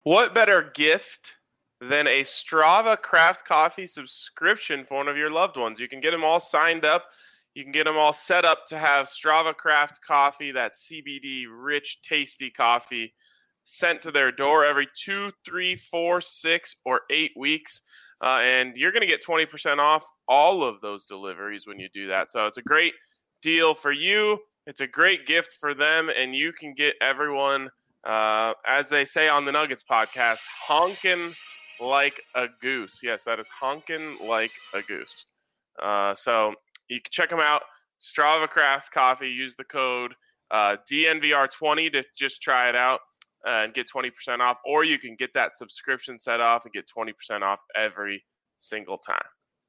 What better gift than a Strava Craft Coffee subscription for one of your loved ones? You can get them all signed up. You can get them all set up to have Strava Craft Coffee, that CBD rich, tasty coffee, sent to their door every 2, 3, 4, 6, or 8 weeks. And you're going to get 20% off all of those deliveries when you do that. So it's a great deal for you. It's a great gift for them. And you can get everyone, as they say on the Nuggets podcast, honking like a goose. Yes, that is honking like a goose. So you can check them out. Strava Craft Coffee. Use the code DNVR20 to just try it out and get 20% off. Or you can get that subscription set off and get 20% off every single time.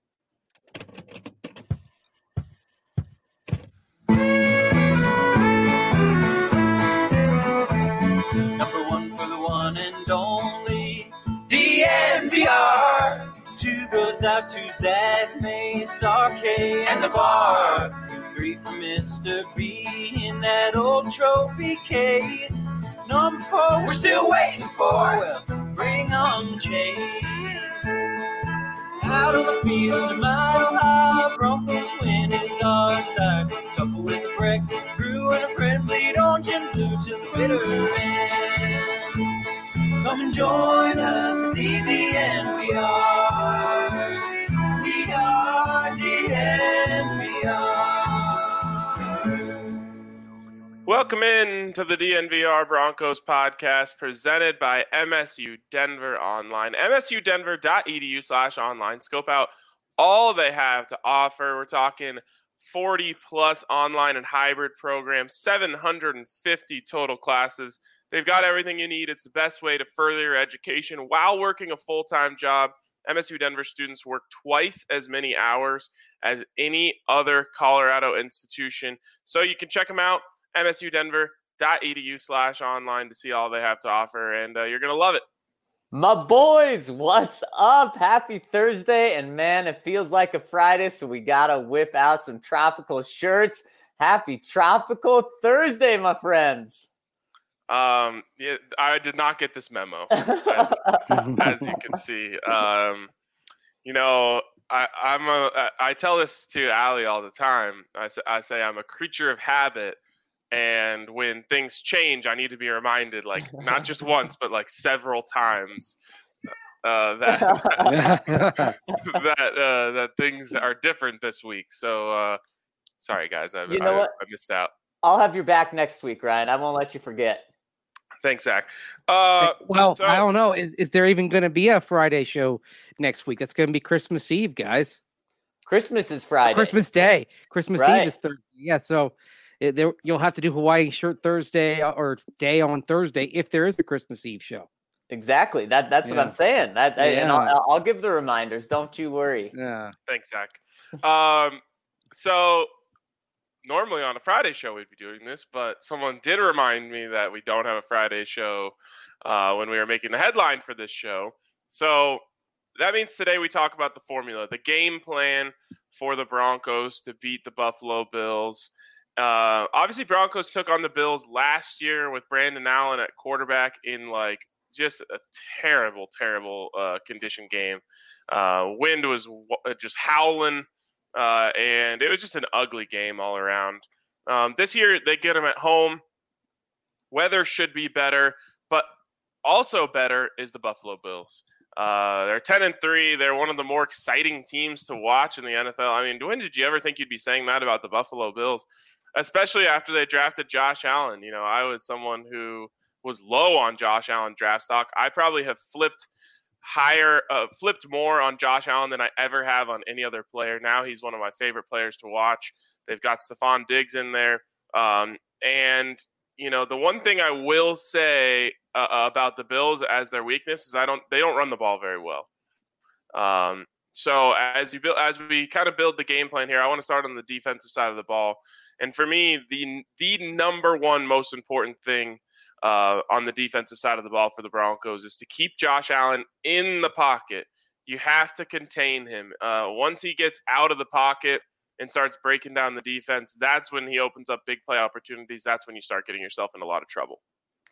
Number one for the one and only DNVR. 2 goes out to Zach, Mace, RK, and the bar. 3 for Mr. B in that old trophy case. Number 4 we're still waiting for. Well, bring on the chase. Out on the field, a mile high, Broncos win is our desire. Couple with a breakfast crew and a friend, bleed orange and blue till the bitter end. Come and join us at the DNVR. We are DNVR. Welcome in to the DNVR Broncos podcast presented by MSU Denver Online. MSUdenver.edu/online. Scope out all they have to offer. We're talking 40-plus online and hybrid programs, 750 total classes. They've got everything you need. It's the best way to further your education while working a full-time job. MSU Denver students work twice as many hours as any other Colorado institution. So you can check them out, MSUdenver.edu/online, to see all they have to offer, and you're going to love it. My boys, what's up? Happy Thursday, and man, it feels like a Friday, so we got to whip out some tropical shirts. Happy Tropical Thursday, my friends. Yeah, I did not get this memo, as you can see. I tell this to Allie all the time. I say I'm a creature of habit, and when things change, I need to be reminded, like not just once, but like several times, that things are different this week. So sorry, guys, I missed out. I'll have your back next week, Ryan. I won't let you forget. Thanks, Zach. I don't know. Is there even going to be a Friday show next week? That's going to be Christmas Eve, guys. Christmas is Friday. Christmas Day. Christmas Right. Eve is Thursday. Yeah, so you'll have to do Hawaii shirt Thursday or day on Thursday if there is a Christmas Eve show. Exactly. That's what I'm saying. And I'll give the reminders. Don't you worry. Yeah. Thanks, Zach. So normally on a Friday show we'd be doing this, but someone did remind me that we don't have a Friday show when we were making the headline for this show. So that means today we talk about the formula, the game plan for the Broncos to beat the Buffalo Bills. Obviously, Broncos took on the Bills last year with Brandon Allen at quarterback in like just a terrible condition game. Wind was just howling. And it was just an ugly game all around. This year, they get them at home. Weather should be better, but also better is the Buffalo Bills. They're 10-3. They're one of the more exciting teams to watch in the NFL. I mean, when did you ever think you'd be saying that about the Buffalo Bills, especially after they drafted Josh Allen? You know, I was someone who was low on Josh Allen draft stock. I probably have flipped more on Josh Allen than I ever have on any other player. Now he's one of my favorite players to watch. They've got Stephon Diggs in there. And, you know, the one thing I will say about the Bills as their weakness is they don't run the ball very well. So as we kind of build the game plan here, I want to start on the defensive side of the ball. And for me, the number one most important thing on the defensive side of the ball for the Broncos is to keep Josh Allen in the pocket. You have to contain him. Once he gets out of the pocket and starts breaking down the defense, that's when he opens up big play opportunities. That's when you start getting yourself in a lot of trouble.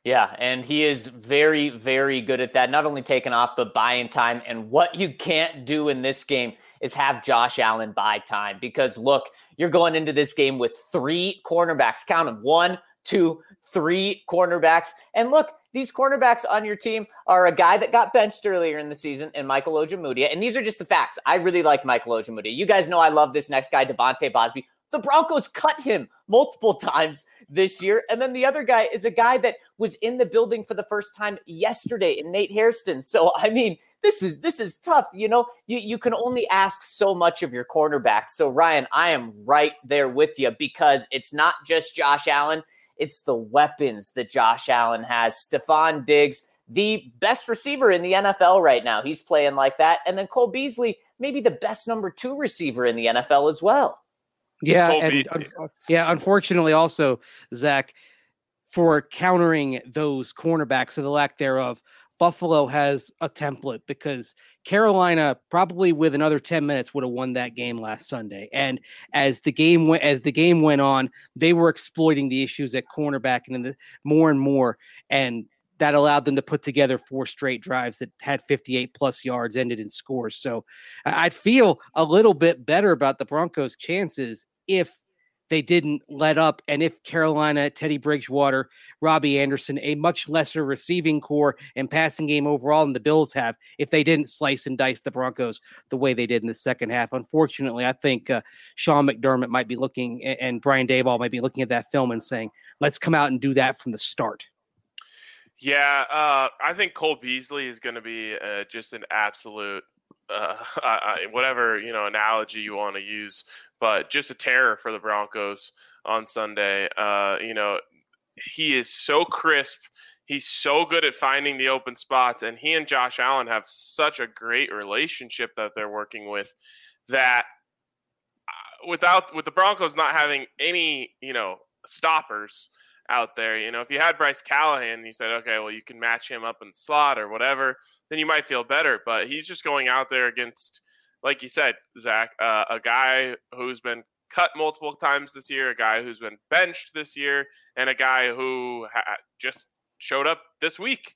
Yeah, and he is very, very good at that. Not only taking off, but buying time. And what you can't do in this game is have Josh Allen buy time. Because, look, you're going into this game with 3 cornerbacks. Count them. 1, 2, 3 cornerbacks. And look, these cornerbacks on your team are a guy that got benched earlier in the season and Michael Ojemudia. And these are just the facts. I really like Michael Ojemudia. You guys know I love this next guy, Devontae Bosby. The Broncos cut him multiple times this year. And then the other guy is a guy that was in the building for the first time yesterday in Nate Hairston. So, I mean, this is tough. You know, you can only ask so much of your quarterback. So, Ryan, I am right there with you because it's not just Josh Allen. It's the weapons that Josh Allen has. Stephon Diggs, the best receiver in the NFL right now. He's playing like that. And then Cole Beasley, maybe the best number 2 receiver in the NFL as well. Yeah, and unfortunately also, Zach, for countering those cornerbacks or the lack thereof, Buffalo has a template because Carolina probably with another 10 minutes would have won that game last Sunday. And as the game went on, they were exploiting the issues at cornerback and more and more. And that allowed them to put together 4 straight drives that had 58 plus yards, ended in scores. So I'd feel a little bit better about the Broncos' chances if they didn't let up. And if Carolina, Teddy Bridgewater, Robbie Anderson, a much lesser receiving core and passing game overall than the Bills have, if they didn't slice and dice the Broncos the way they did in the second half. Unfortunately, I think Sean McDermott might be looking and Brian Daboll might be looking at that film and saying, let's come out and do that from the start. Yeah, I think Cole Beasley is going to be just an absolute, whatever analogy you want to use, but just a terror for the Broncos on Sunday. He is so crisp. He's so good at finding the open spots, and he and Josh Allen have such a great relationship that they're working with that with the Broncos not having any, stoppers out there. If you had Bryce Callahan and you said, okay, well, you can match him up in the slot or whatever, then you might feel better. But he's just going out there against, like you said, Zach, a guy who's been cut multiple times this year, a guy who's been benched this year, and a guy who just showed up this week.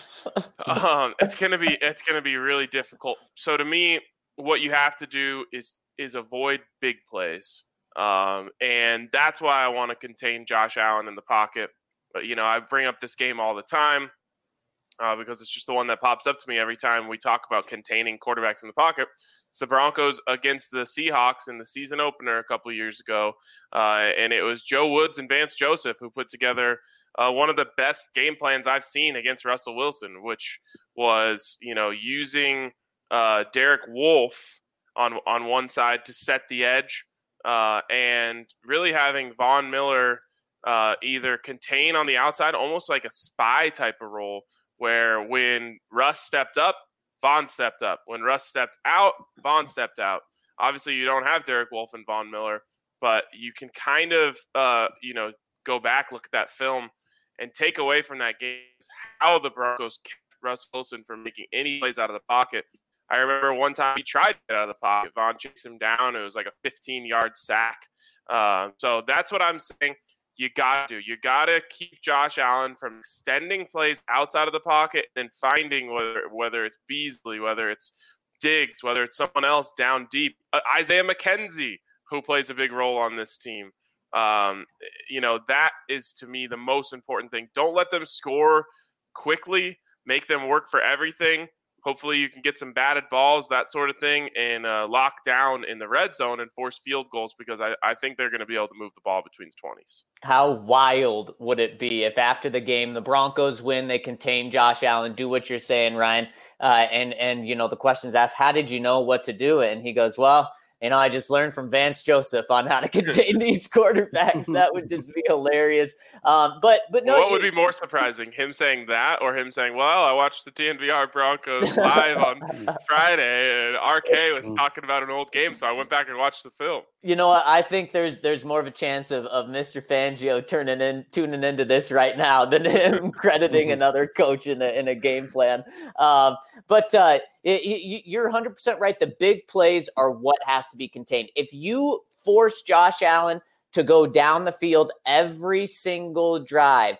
It's gonna be really difficult. So to me, what you have to do is avoid big plays. And that's why I want to contain Josh Allen in the pocket. But, I bring up this game all the time because it's just the one that pops up to me every time we talk about containing quarterbacks in the pocket. It's the Broncos against the Seahawks in the season opener a couple of years ago. And it was Joe Woods and Vance Joseph who put together one of the best game plans I've seen against Russell Wilson, which was, using Derek Wolfe on one side to set the edge. And really having Von Miller either contain on the outside, almost like a spy type of role, where when Russ stepped up, Von stepped up. When Russ stepped out, Von stepped out. Obviously, you don't have Derek Wolfe and Von Miller, but you can kind of, go back, look at that film, and take away from that game how the Broncos kept Russ Wilson from making any plays out of the pocket. I remember one time he tried to get out of the pocket. Von chased him down. It was like a 15-yard sack. So that's what I'm saying. You got to do. You got to keep Josh Allen from extending plays outside of the pocket and finding whether it's Beasley, whether it's Diggs, whether it's someone else down deep. Isaiah McKenzie, who plays a big role on this team. That is, to me, the most important thing. Don't let them score quickly. Make them work for everything. Hopefully you can get some batted balls, that sort of thing, and lock down in the red zone and force field goals because I think they're going to be able to move the ball between the 20s. How wild would it be if after the game the Broncos win, they contain Josh Allen, do what you're saying, Ryan, and the question's asked, how did you know what to do? And he goes, well, I just learned from Vance Joseph on how to contain these quarterbacks. That would just be hilarious. But no. What would be more surprising, him saying that or him saying, well, I watched the DNVR Broncos live on Friday and RK was talking about an old game, so I went back and watched the film. I think there's more of a chance of Mr. Fangio tuning into this right now than him crediting another coach in a game plan. But you're 100% right. The big plays are what has to be contained. If you force Josh Allen to go down the field every single drive,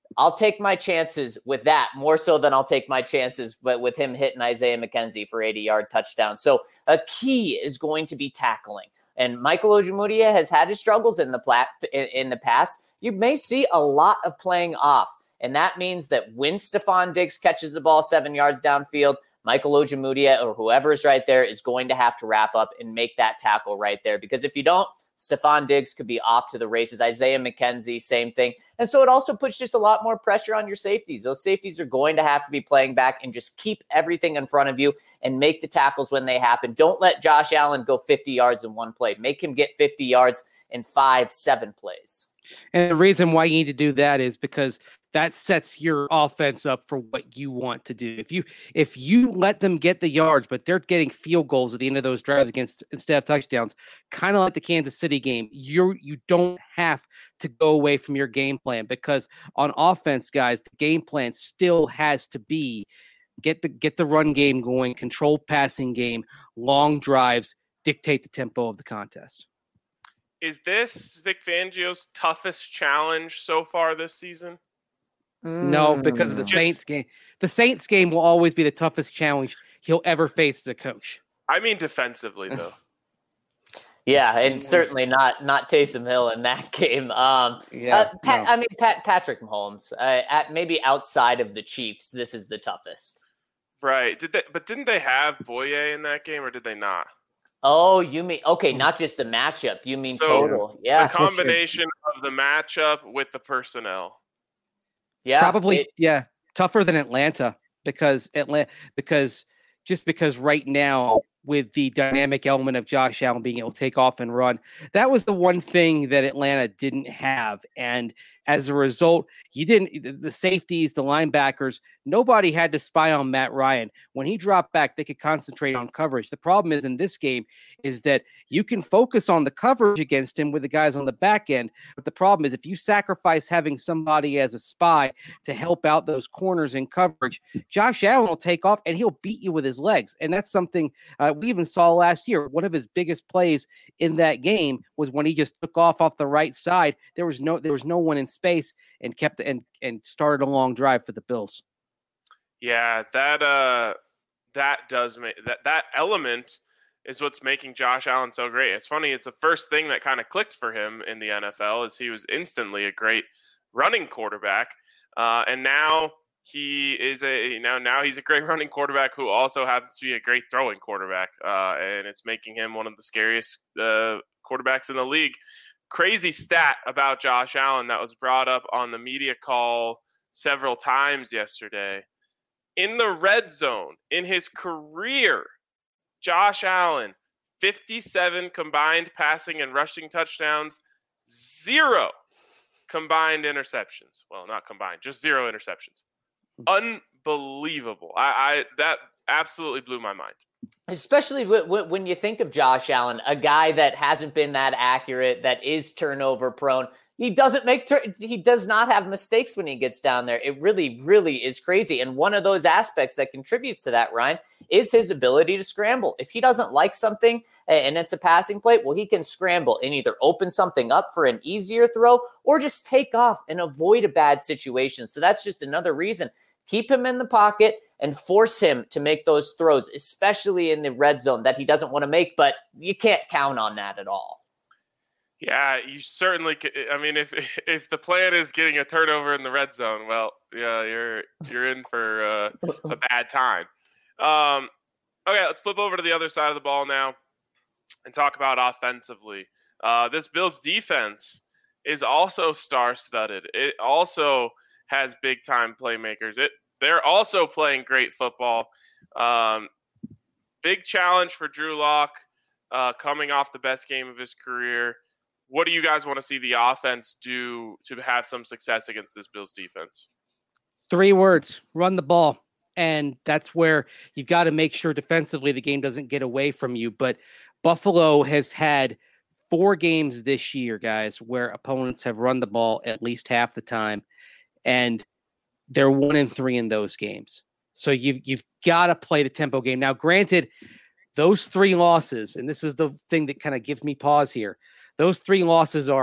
I'll take my chances with that more so than I'll take my chances with him hitting Isaiah McKenzie for 80-yard touchdown. So a key is going to be tackling. And Michael Ojemudia has had his struggles in the past. You may see a lot of playing off. And that means that when Stephon Diggs catches the ball 7 yards downfield, Michael Ojemudia or whoever is right there is going to have to wrap up and make that tackle right there. Because if you don't, Stephon Diggs could be off to the races. Isaiah McKenzie, same thing. And so it also puts just a lot more pressure on your safeties. Those safeties are going to have to be playing back and just keep everything in front of you and make the tackles when they happen. Don't let Josh Allen go 50 yards in one play. Make him get 50 yards in 5-7 plays. And the reason why you need to do that is because that sets your offense up for what you want to do. If you let them get the yards, but they're getting field goals at the end of those drives instead of touchdowns, kind of like the Kansas City game, you don't have to go away from your game plan, because on offense, guys, the game plan still has to be get the run game going, control passing game, long drives, dictate the tempo of the contest. Is this Vic Fangio's toughest challenge so far this season? No, because of the Saints game. The Saints game will always be the toughest challenge he'll ever face as a coach. I mean defensively, though. Yeah, and certainly not Taysom Hill in that game. Patrick Mahomes. Maybe outside of the Chiefs, this is the toughest. Right. Didn't they have Boye in that game, or did they not? Oh, you mean not just the matchup. You mean total? Yeah, the combination of the matchup with the personnel. Yeah, probably tougher than Atlanta because right now, with the dynamic element of Josh Allen being able to take off and run, that was the one thing that Atlanta didn't have. And as a result, the safeties, the linebackers, nobody had to spy on Matt Ryan. When he dropped back, they could concentrate on coverage. The problem is in this game is that you can focus on the coverage against him with the guys on the back end. But the problem is if you sacrifice having somebody as a spy to help out those corners in coverage, Josh Allen will take off and he'll beat you with his legs. And that's something we even saw last year. One of his biggest plays in that game was when he just took off the right side. There was no one in space and kept and started a long drive for the Bills. Yeah, that does make that element is what's making Josh Allen so great. It's funny, it's the first thing that kind of clicked for him in the NFL is he was instantly a great running quarterback. And now he's a great running quarterback who also happens to be a great throwing quarterback. And it's making him one of the scariest quarterbacks in the league. Crazy stat about Josh Allen that was brought up on the media call several times yesterday. In the red zone, in his career, Josh Allen, 57 combined passing and rushing touchdowns, 0 combined interceptions. Well, not combined, just 0 interceptions. Unbelievable. That absolutely blew my mind. Especially when you think of Josh Allen, a guy that hasn't been that accurate, that is turnover prone. He does not have mistakes when he gets down there. It really, really is crazy. And one of those aspects that contributes to that, Ryan, is his ability to scramble. If he doesn't like something and it's a passing play, well, he can scramble and either open something up for an easier throw or just take off and avoid a bad situation. So that's just another reason. Keep him in the pocket and force him to make those throws, especially in the red zone that he doesn't want to make, but you can't count on that at all. Yeah, you certainly could. I mean, if the plan is getting a turnover in the red zone, well, yeah, you're in for a bad time. Okay, let's flip over to the other side of the ball now and talk about offensively. This Bills defense is also star-studded. It also has big-time playmakers. They're also playing great football. Big challenge for Drew Lock coming off the best game of his career. What do you guys want to see the offense do to have some success against this Bills defense? 3 words: run the ball. And that's where you've got to make sure defensively the game doesn't get away from you. But Buffalo has had 4 games this year, guys, where opponents have run the ball at least half the time. And they're 1-3 in those games. So you've got to play the tempo game. Now, granted, those 3 losses, and this is the thing that kind of gives me pause here, those 3 losses are to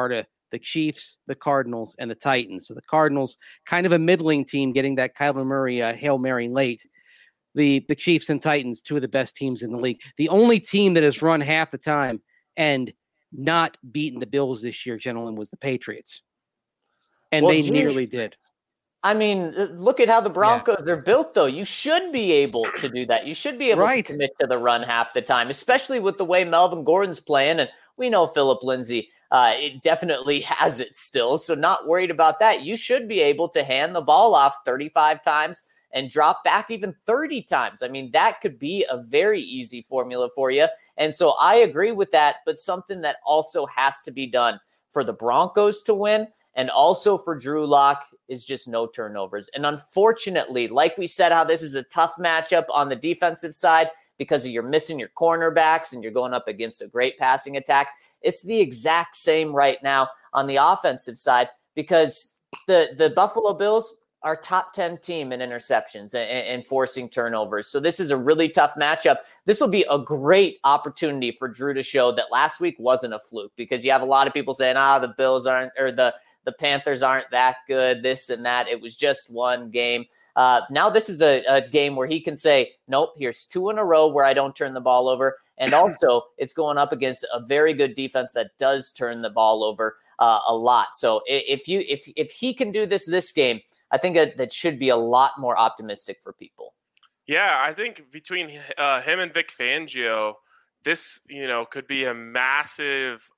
the Chiefs, the Cardinals, and the Titans. So the Cardinals, kind of a middling team, getting that Kyler Murray Hail Mary late. The Chiefs and Titans, two of the best teams in the league. The only team that has run half the time and not beaten the Bills this year, gentlemen, was the Patriots. And they nearly did. I mean, look at how the Broncos are built, though. You should be able to do that. You should be able to commit to the run half the time, especially with the way Melvin Gordon's playing. And we know Phillip Lindsay it definitely has it still, so not worried about that. You should be able to hand the ball off 35 times and drop back even 30 times. I mean, that could be a very easy formula for you. And so I agree with that, but something that also has to be done for the Broncos to win and also for Drew Lock is just no turnovers. And unfortunately, like we said, how this is a tough matchup on the defensive side because you're missing your cornerbacks and you're going up against a great passing attack. It's the exact same right now on the offensive side because the Buffalo Bills are top 10 team in interceptions and forcing turnovers. So this is a really tough matchup. This will be a great opportunity for Drew to show that last week wasn't a fluke because you have a lot of people saying, the Bills aren't, or the Panthers aren't that good, this and that. It was just one game. Now this is a game where he can say, nope, here's 2 in a row where I don't turn the ball over. And also it's going up against a very good defense that does turn the ball over a lot. So if he can do this game, I think that should be a lot more optimistic for people. Yeah, I think between him and Vic Fangio, this could be a massive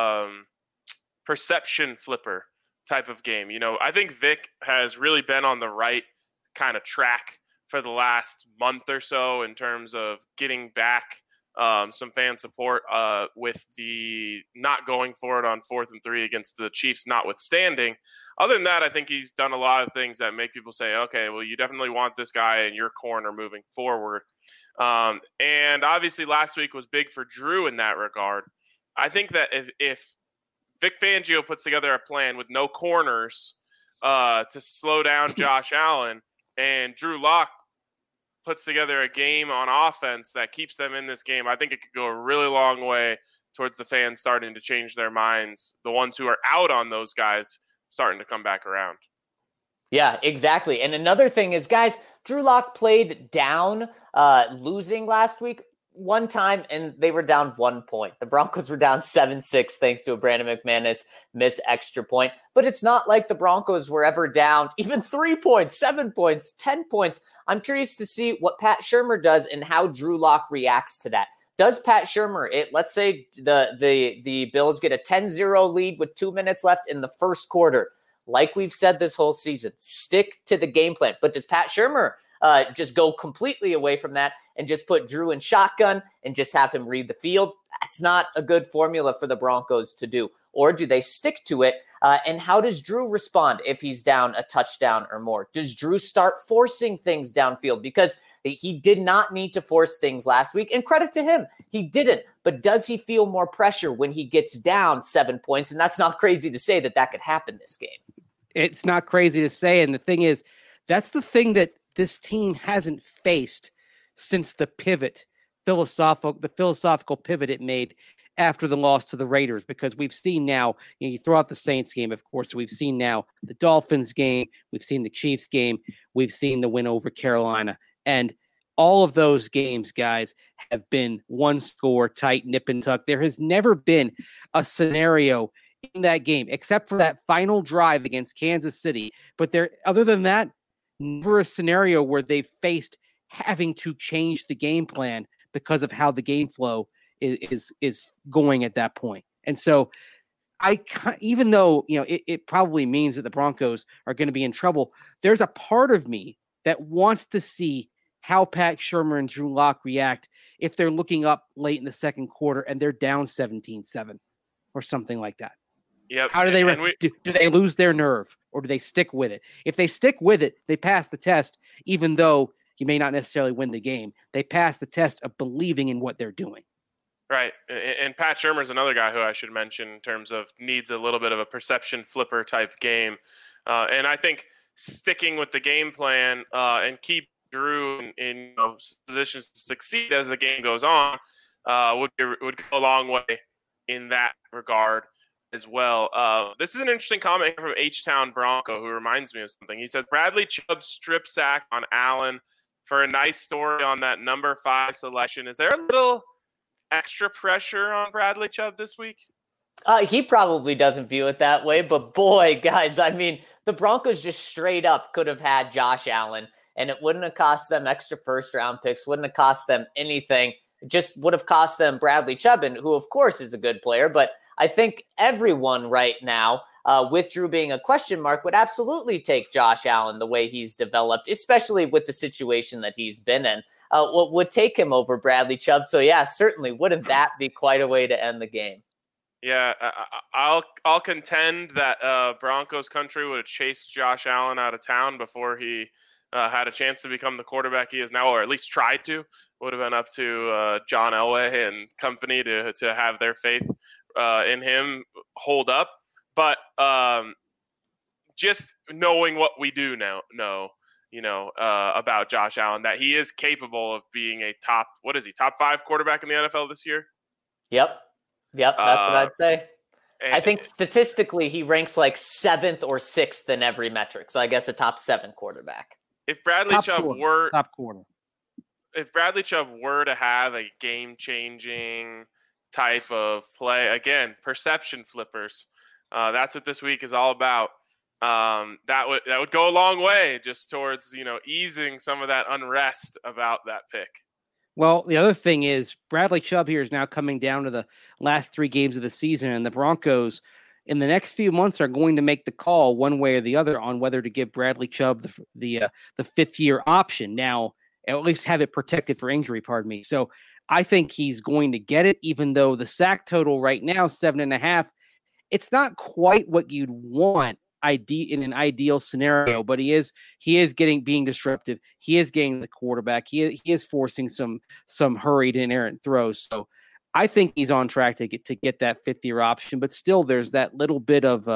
perception flipper type of game. I think Vic has really been on the right kind of track for the last month or so in terms of getting back some fan support with the not going for it on 4th and 3 against the Chiefs notwithstanding. Other than that, I think he's done a lot of things that make people say, okay, well, you definitely want this guy in your corner moving forward. And obviously last week was big for Drew in that regard. I think that if Vic Fangio puts together a plan with no corners to slow down Josh Allen and Drew Lock puts together a game on offense that keeps them in this game, I think it could go a really long way towards the fans starting to change their minds. The ones who are out on those guys starting to come back around. Yeah, exactly. And another thing is, guys, Drew Lock played down, losing last week one time, and they were down 1 point. The Broncos were down 7-6 thanks to a Brandon McManus miss extra point. But it's not like the Broncos were ever down even 3 points, 7 points, 10 points. I'm curious to see what Pat Shurmur does and how Drew Lock reacts to that. Does Pat Shurmur, let's say the Bills get a 10-0 lead with 2 minutes left in the first quarter, like we've said this whole season, stick to the game plan. But does Pat Shurmur just go completely away from that and just put Drew in shotgun and just have him read the field? That's not a good formula for the Broncos to do. Or do they stick to it? And how does Drew respond if he's down a touchdown or more? Does Drew start forcing things downfield? Because he did not need to force things last week. And credit to him, he didn't. But does he feel more pressure when he gets down 7 points? And that's not crazy to say that could happen this game. It's not crazy to say. And the thing is, that's the thing that this team hasn't faced since the philosophical pivot it made after the loss to the Raiders, because we've seen now, you throw out the Saints game, of course, we've seen now the Dolphins game, we've seen the Chiefs game, we've seen the win over Carolina. And all of those games, guys, have been one score, tight, nip and tuck. There has never been a scenario in that game, except for that final drive against Kansas City. But other than that, never a scenario where they've faced having to change the game plan because of how the game flow is going at that point. And so even though, it probably means that the Broncos are going to be in trouble, there's a part of me that wants to see how Pat Shurmur and Drew Lock react if they're looking up late in the second quarter and they're down 17-7 or something like that. Yep. How do they do they lose their nerve, or do they stick with it? If they stick with it, they pass the test, even though you may not necessarily win the game. They pass the test of believing in what they're doing. Right. And Pat Shurmur is another guy who I should mention in terms of needs a little bit of a perception flipper type game. And I think sticking with the game plan and keep Drew in positions to succeed as the game goes on would go a long way in that regard as well. This is an interesting comment from H-Town Bronco, who reminds me of something. He says, Bradley Chubb strip sack on Allen for a nice story on that number 5 selection. Is there a little extra pressure on Bradley Chubb this week? He probably doesn't view it that way, but boy, guys, I mean, the Broncos just straight up could have had Josh Allen, and it wouldn't have cost them extra first-round picks, wouldn't have cost them anything. It just would have cost them Bradley Chubb, who, of course, is a good player, but I think everyone right now, with Drew being a question mark, would absolutely take Josh Allen the way he's developed, especially with the situation that he's been in. Would take him over Bradley Chubb. So, yeah, certainly wouldn't that be quite a way to end the game? Yeah, I'll contend that Broncos country would have chased Josh Allen out of town before he had a chance to become the quarterback he is now, or at least tried to. Would have been up to John Elway and company to have their faith in him hold up. But just knowing what we do now know, about Josh Allen, that he is capable of being a top 5 quarterback in the NFL this year. Yep, that's what I'd say. I think statistically he ranks like 7th or 6th in every metric. So I guess a top 7 quarterback. If Bradley Chubb were top quarter. If Bradley Chubb were to have a game-changing type of play, again, perception flippers, that's what this week is all about. That would go a long way just towards, easing some of that unrest about that pick. Well, the other thing is Bradley Chubb here is now coming down to the last 3 games of the season, and the Broncos in the next few months are going to make the call one way or the other on whether to give Bradley Chubb the 5th-year option now, at least have it protected for injury, pardon me. So I think he's going to get it, even though the sack total right now, 7.5, it's not quite what you'd want in an ideal scenario, but he is being disruptive. He is getting the quarterback. He is forcing some hurried and errant throws. So I think he's on track to get that 5th-year option, but still there's that little bit of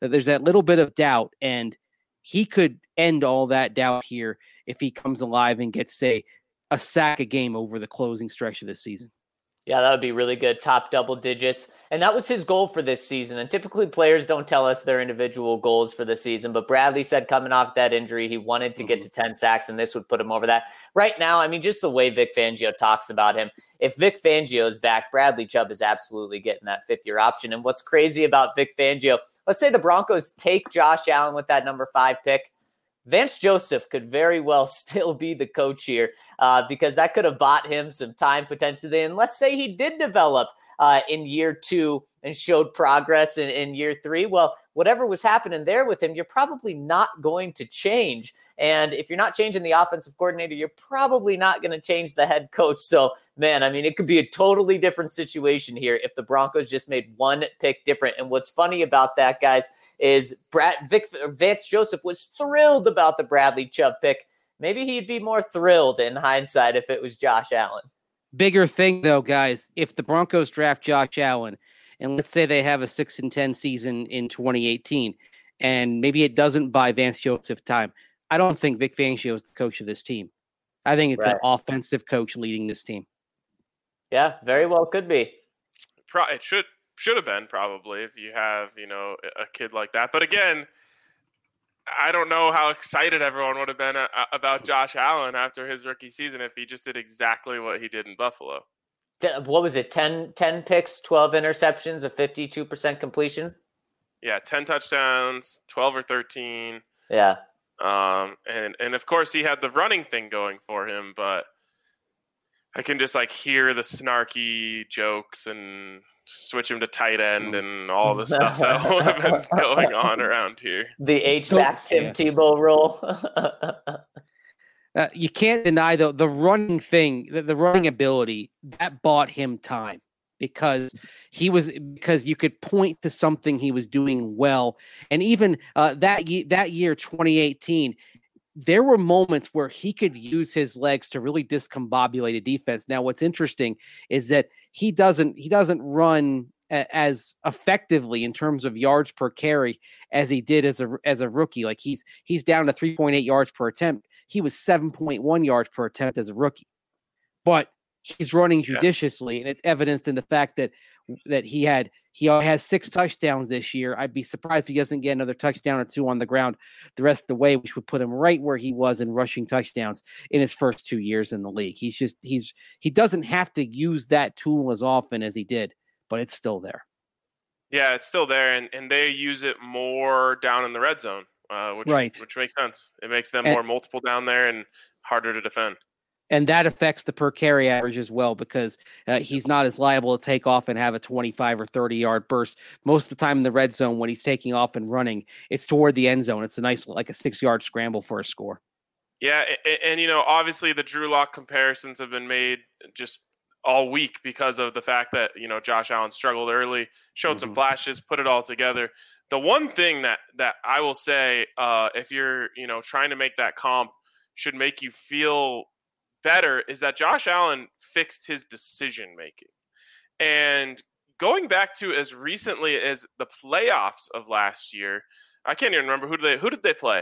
doubt, and he could end all that doubt here if he comes alive and gets, say, a sack a game over the closing stretch of this season. Yeah, that would be really good. Top double digits. And that was his goal for this season. And typically players don't tell us their individual goals for the season. But Bradley said coming off that injury, he wanted to get to 10 sacks, and this would put him over that. Right now, I mean, just the way Vic Fangio talks about him, if Vic Fangio is back, Bradley Chubb is absolutely getting that 5th-year option. And what's crazy about Vic Fangio, let's say the Broncos take Josh Allen with that number 5 pick. Vance Joseph could very well still be the coach here because that could have bought him some time potentially. And let's say he did develop in year 2 and showed progress in year 3. Well, whatever was happening there with him, you're probably not going to change. And if you're not changing the offensive coordinator, you're probably not going to change the head coach. So, man, I mean, it could be a totally different situation here if the Broncos just made one pick different. And what's funny about that, guys, is Vance Joseph was thrilled about the Bradley Chubb pick. Maybe he'd be more thrilled in hindsight if it was Josh Allen. Bigger thing, though, guys, if the Broncos draft Josh Allen, and let's say they have a 6-10 season in 2018, and maybe it doesn't buy Vance Joseph time, I don't think Vic Fangio is the coach of this team. I think it's an offensive coach leading this team. Yeah, very well could be. It should have been probably if you have, a kid like that. But again, I don't know how excited everyone would have been about Josh Allen after his rookie season if he just did exactly what he did in Buffalo. What was it? 10 picks, 12 interceptions, a 52% completion? Yeah, 10 touchdowns, 12 or 13. Yeah. And of course he had the running thing going for him, but I can just hear the snarky jokes and switch him to tight end and all the stuff that would have been going on around here. The H-back Tim Tebow role. You can't deny the running thing, the running ability that bought him time because you could point to something he was doing well. And even that year, 2018, there were moments where he could use his legs to really discombobulate a defense. Now, what's interesting is that he doesn't run as effectively in terms of yards per carry as he did as a rookie. Like he's down to 3.8 yards per attempt. He was 7.1 yards per attempt as a rookie, but he's running judiciously, and it's evidenced in the fact that he had He has 6 touchdowns this year. I'd be surprised if he doesn't get another touchdown or 2 on the ground the rest of the way, which would put him right where he was in rushing touchdowns in his first 2 years in the league. He doesn't have to use that tool as often as he did, but it's still there. Yeah, it's still there, and they use it more down in the red zone, which makes sense. It makes them more multiple down there and harder to defend. And that affects the per carry average as well, because he's not as liable to take off and have a 25 or 30-yard burst. Most of the time in the red zone, when he's taking off and running, it's toward the end zone. It's a nice, like a 6-yard scramble for a score. Yeah, and obviously the Drew Lock comparisons have been made just all week because of the fact that, Josh Allen struggled early, showed some flashes, put it all together. The one thing that I will say, if you're, trying to make that comp, should make you feel better, is that Josh Allen fixed his decision making. And going back to as recently as the playoffs of last year, I can't even remember who did they play?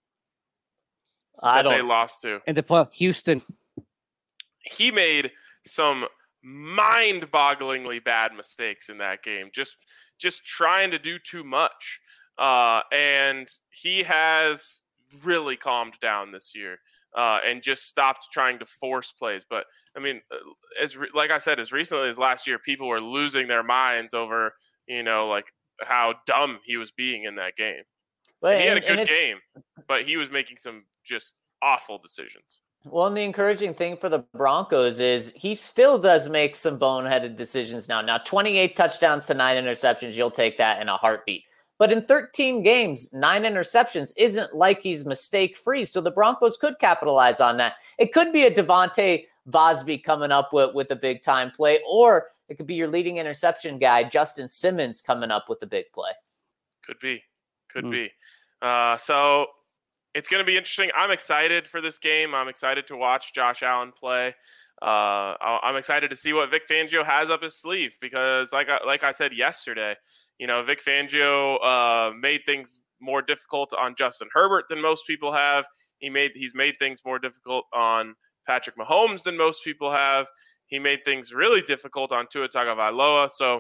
They lost to. And they play Houston. He made some mind-bogglingly bad mistakes in that game, just trying to do too much. And he has really calmed down this year. And just stopped trying to force plays. But, I mean, like I said, as recently as last year, people were losing their minds over, like how dumb he was being in that game. But he had a good game, but he was making some just awful decisions. Well, and the encouraging thing for the Broncos is he still does make some boneheaded decisions now. Now, 28 touchdowns to 9 interceptions, you'll take that in a heartbeat. But in 13 games, 9 interceptions isn't like he's mistake-free, so the Broncos could capitalize on that. It could be a Devontae Bosby coming up with a big-time play, or it could be your leading interception guy, Justin Simmons, coming up with a big play. Could be. So it's going to be interesting. I'm excited for this game. I'm excited to watch Josh Allen play. I'm excited to see what Vic Fangio has up his sleeve because, like I said yesterday, Vic Fangio made things more difficult on Justin Herbert than most people have. He's made things more difficult on Patrick Mahomes than most people have. He made things really difficult on Tua Tagovailoa. So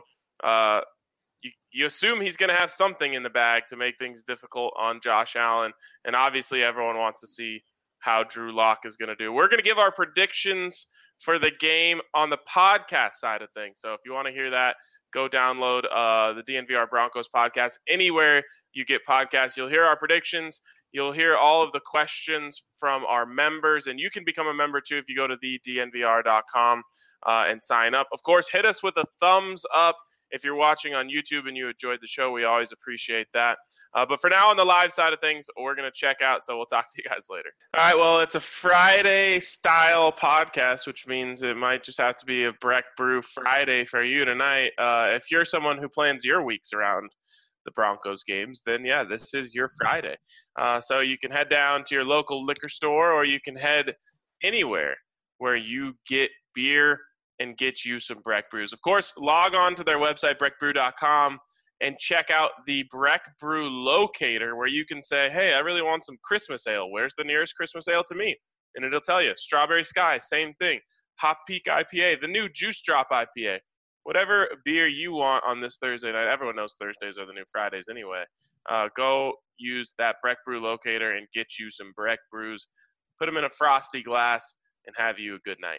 you assume he's going to have something in the bag to make things difficult on Josh Allen. And obviously everyone wants to see how Drew Lock is going to do. We're going to give our predictions for the game on the podcast side of things. So if you want to hear that, go download the DNVR Broncos podcast. Anywhere you get podcasts, you'll hear our predictions. You'll hear all of the questions from our members, and you can become a member too if you go to thednvr.com and sign up. Of course, hit us with a thumbs up if you're watching on YouTube and you enjoyed the show. We always appreciate that. But for now, on the live side of things, we're going to check out, so we'll talk to you guys later. All right, well, it's a Friday-style podcast, which means it might just have to be a Breck Brew Friday for you tonight. If you're someone who plans your weeks around the Broncos games, then, yeah, this is your Friday. So you can head down to your local liquor store, or you can head anywhere where you get beer and get you some Breck Brews. Of course, log on to their website, breckbrew.com, and check out the Breck Brew locator where you can say, hey, I really want some Christmas ale. Where's the nearest Christmas ale to me? And it'll tell you. Strawberry Sky, same thing. Hop Peak IPA, the new Juice Drop IPA. Whatever beer you want on this Thursday night. Everyone knows Thursdays are the new Fridays anyway. Go use that Breck Brew locator and get you some Breck Brews. Put them in a frosty glass and have you a good night.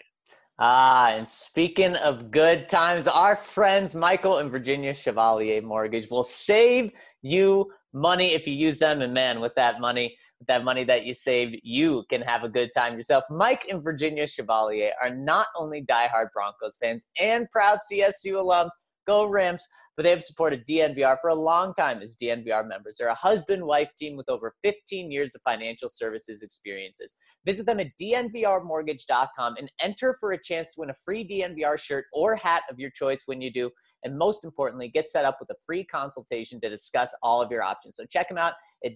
And speaking of good times, our friends Michael and Virginia Chevalier Mortgage will save you money if you use them. And man, with that money that you saved, you can have a good time yourself. Mike and Virginia Chevalier are not only diehard Broncos fans and proud CSU alums, go Rams, but they have supported DNVR for a long time as DNVR members. They're a husband-wife team with over 15 years of financial services experiences. Visit them at dnvrmortgage.com and enter for a chance to win a free DNVR shirt or hat of your choice when you do. And most importantly, get set up with a free consultation to discuss all of your options. So check them out at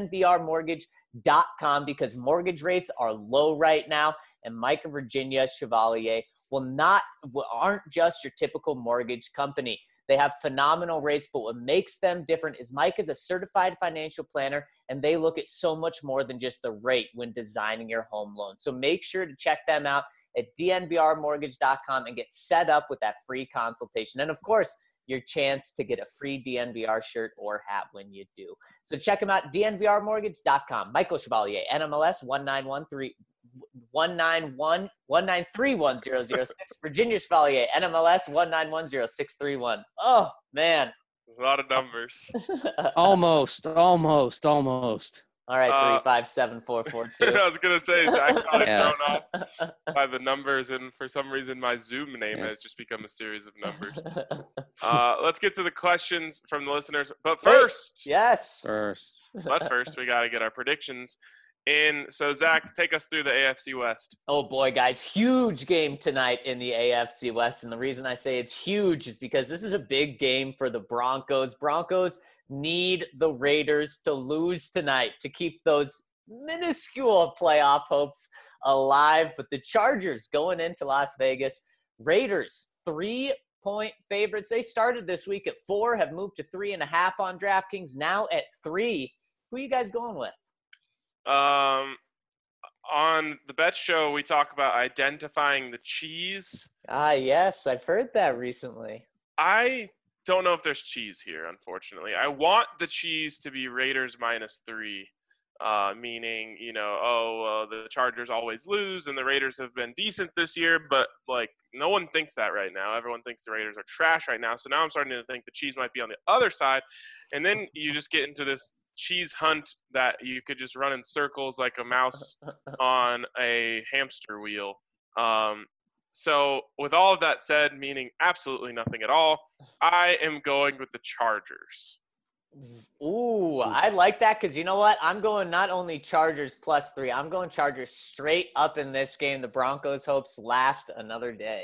dnvrmortgage.com because mortgage rates are low right now. And Mike and Virginia Chevalier aren't just your typical mortgage company. They have phenomenal rates, but what makes them different is Mike is a certified financial planner, and they look at so much more than just the rate when designing your home loan. So make sure to check them out at dnvrmortgage.com and get set up with that free consultation. And of course, your chance to get a free DNVR shirt or hat when you do. So check them out, dnvrmortgage.com. Michael Chevalier, NMLS 1931006. Virginia Chevalier, NMLS 1910631. Oh, man. A lot of numbers. Almost. All right, 357-442. I was going to say, Zach got thrown off by the numbers, and for some reason my Zoom name has just become a series of numbers. Let's get to the questions from the listeners. But first, we got to get our predictions in. So, Zach, take us through the AFC West. Oh, boy, guys. Huge game tonight in the AFC West. And the reason I say it's huge is because this is a big game for the Broncos. Broncos need the Raiders to lose tonight to keep those minuscule playoff hopes alive. But the Chargers going into Las Vegas, Raiders 3-point favorites. They started this week at 4, have moved to 3.5 on DraftKings, now at 3. Who are you guys going with? On the Bet Show, we talk about identifying the cheese. Yes, I've heard that recently. I don't know if there's cheese here, unfortunately. I want the cheese to be Raiders -3, meaning, the Chargers always lose and the Raiders have been decent this year, but, no one thinks that right now. Everyone thinks the Raiders are trash right now. So now I'm starting to think the cheese might be on the other side. And then you just get into this cheese hunt that you could just run in circles like a mouse on a hamster wheel. So with all of that said, meaning absolutely nothing at all, I am going with the Chargers. Ooh, I like that because you know what? I'm going not only Chargers +3, I'm going Chargers straight up in this game. The Broncos' hopes last another day.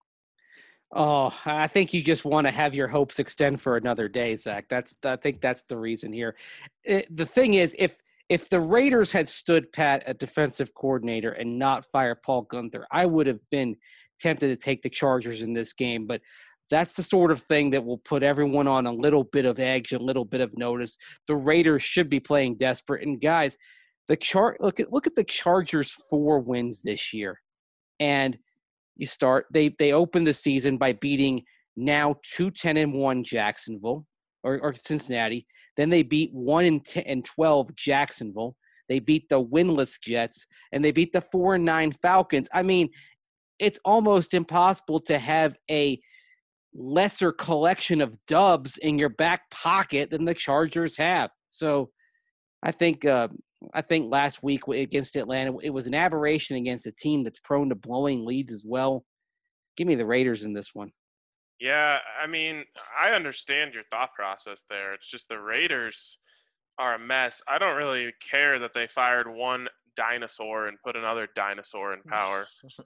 Oh, I think you just want to have your hopes extend for another day, Zach. I think that's the reason here. The thing is, if the Raiders had stood pat at defensive coordinator and not fire Paul Guenther, I would have been tempted to take the Chargers in this game. But that's the sort of thing that will put everyone on a little bit of edge, a little bit of notice. The Raiders should be playing desperate. And guys, look at the Chargers' 4 wins this year, and they opened the season by beating now 2-10-1 Jacksonville or Cincinnati. Then they beat 1-12 Jacksonville. They beat the winless Jets, and they beat the 4-9 Falcons. I mean, it's almost impossible to have a lesser collection of dubs in your back pocket than the Chargers have. So I think last week against Atlanta, it was an aberration against a team that's prone to blowing leads as well. Give me the Raiders in this one. Yeah, I mean, I understand your thought process there. It's just the Raiders are a mess. I don't really care that they fired one dinosaur and put another dinosaur in power.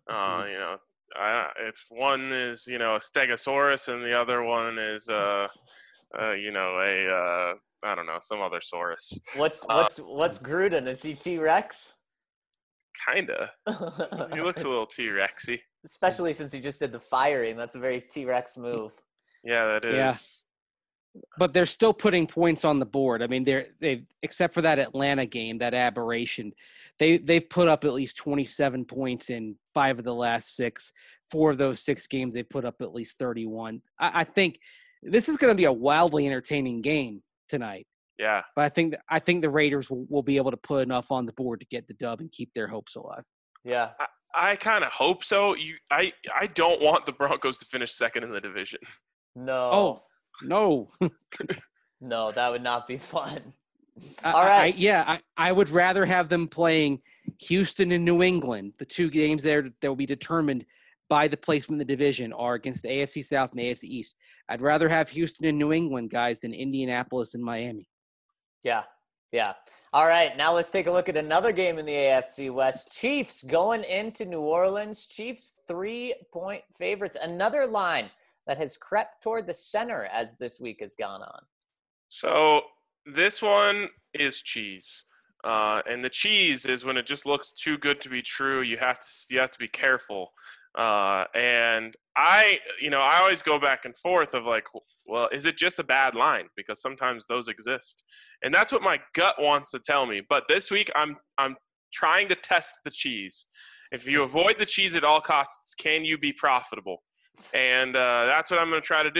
It's one is, a Stegosaurus and the other one is, I don't know, some other saurus. What's Gruden? Is he T-Rex? Kinda. He looks a little T-Rexy. Especially since he just did the firing. That's a very T-Rex move. Yeah, that is. Yeah. But they're still putting points on the board. I mean, they've except for that Atlanta game, that aberration, they've put up at least 27 points in 5 of the last 6. 4 of those 6 games, they put up at least 31. I think this is going to be a wildly entertaining game tonight. Yeah. But I think the Raiders will be able to put enough on the board to get the dub and keep their hopes alive. Yeah. I kind of hope so. I don't want the Broncos to finish second in the division. No. Oh, no. No, that would not be fun. All right. I would rather have them playing Houston and New England. The 2 games there that will be determined by the placement in the division are against the AFC South and the AFC East. I'd rather have Houston and New England, guys, than Indianapolis and Miami. Yeah. All right, now let's take a look at another game in the AFC West. Chiefs going into New Orleans. Chiefs 3-point favorites. Another line that has crept toward the center as this week has gone on. So this one is cheese. And the cheese is when it just looks too good to be true. You have to be careful. And I always go back and forth of like, well, is it just a bad line? Because sometimes those exist. And that's what my gut wants to tell me. But this week I'm trying to test the cheese. If you avoid the cheese at all costs, can you be profitable? And that's what I'm going to try to do.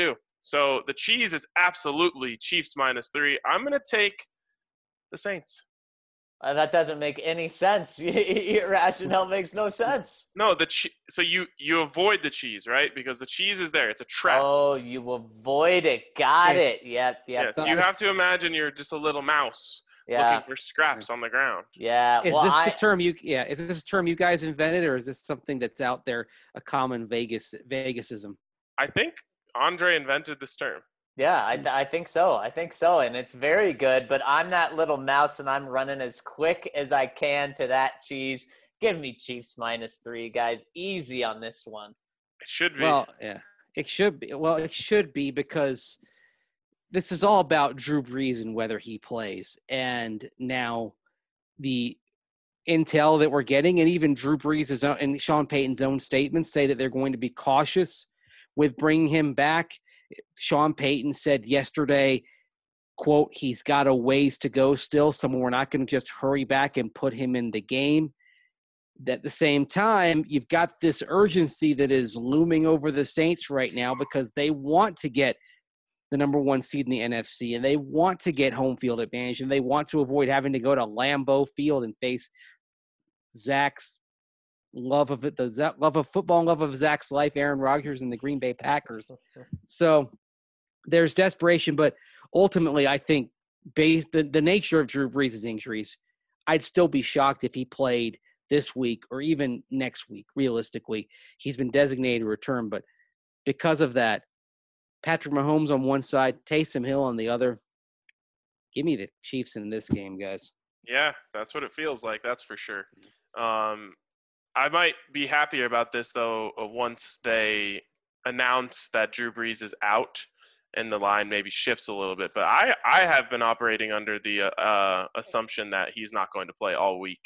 So the cheese is absolutely Chiefs -3. I'm going to take the Saints. That doesn't make any sense. Your rationale makes no sense. No, so you avoid the cheese, right? Because the cheese is there. It's a trap. Oh, you avoid it. Got it. Yep. Yeah, so you have to imagine you're just a little mouse looking for scraps on the ground. Yeah. Is this a term you guys invented, or is this something that's out there, a common Vegasism? I think Andre invented this term. Yeah, I think so. And it's very good, but I'm that little mouse and I'm running as quick as I can to that cheese. Give me Chiefs -3, guys. Easy on this one. It should be. Well, yeah. It should be. Well, it should be, because this is all about Drew Brees and whether he plays. And now the intel that we're getting, and even Drew Brees' own and Sean Payton's own statements, say that they're going to be cautious with bringing him back. Sean Payton said yesterday, quote, he's got a ways to go still, so we're not going to just hurry back and put him in the game. At the same time, you've got this urgency that is looming over the Saints right now, because they want to get the number 1 seed in the NFC, and they want to get home field advantage, and they want to avoid having to go to Lambeau Field and face Zach's love of it, the love of football and love of Zach's life, Aaron Rodgers and the Green Bay Packers. So there's desperation, but ultimately I think based the nature of Drew Brees' injuries, I'd still be shocked if he played this week or even next week. Realistically, he's been designated to return, but because of that, Patrick Mahomes on one side, Taysom Hill on the other. Give me the Chiefs in this game, guys. Yeah, that's what it feels like. That's for sure. I might be happier about this, though, once they announce that Drew Brees is out and the line maybe shifts a little bit. But I have been operating under the assumption that he's not going to play all week.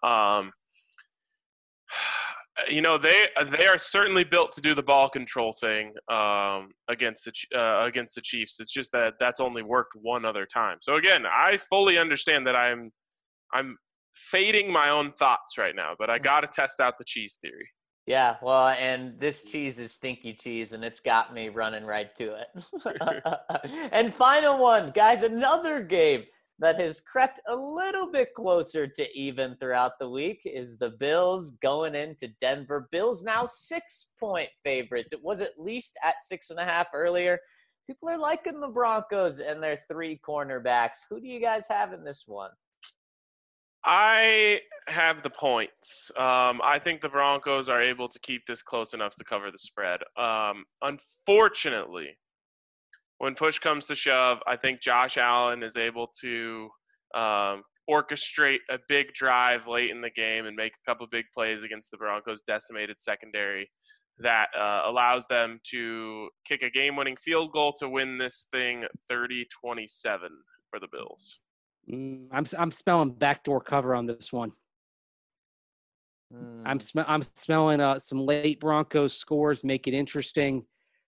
They are certainly built to do the ball control thing against the Chiefs. It's just that that's only worked one other time. So, again, I fully understand that I'm fading my own thoughts right now, but I got to test out the cheese theory. Yeah, well, and this cheese is stinky cheese, and it's got me running right to it. And final one, guys, another game that has crept a little bit closer to even throughout the week is the Bills going into Denver. Bills now 6-point favorites. It was at least at 6.5 earlier. People are liking the Broncos and their 3 cornerbacks. Who do you guys have in this one? I have the points. I think the Broncos are able to keep this close enough to cover the spread. Unfortunately, when push comes to shove, I think Josh Allen is able to orchestrate a big drive late in the game and make a couple big plays against the Broncos' decimated secondary that allows them to kick a game-winning field goal to win this thing 30-27 for the Bills. I'm smelling backdoor cover on this one. I'm smelling some late Broncos scores, make it interesting.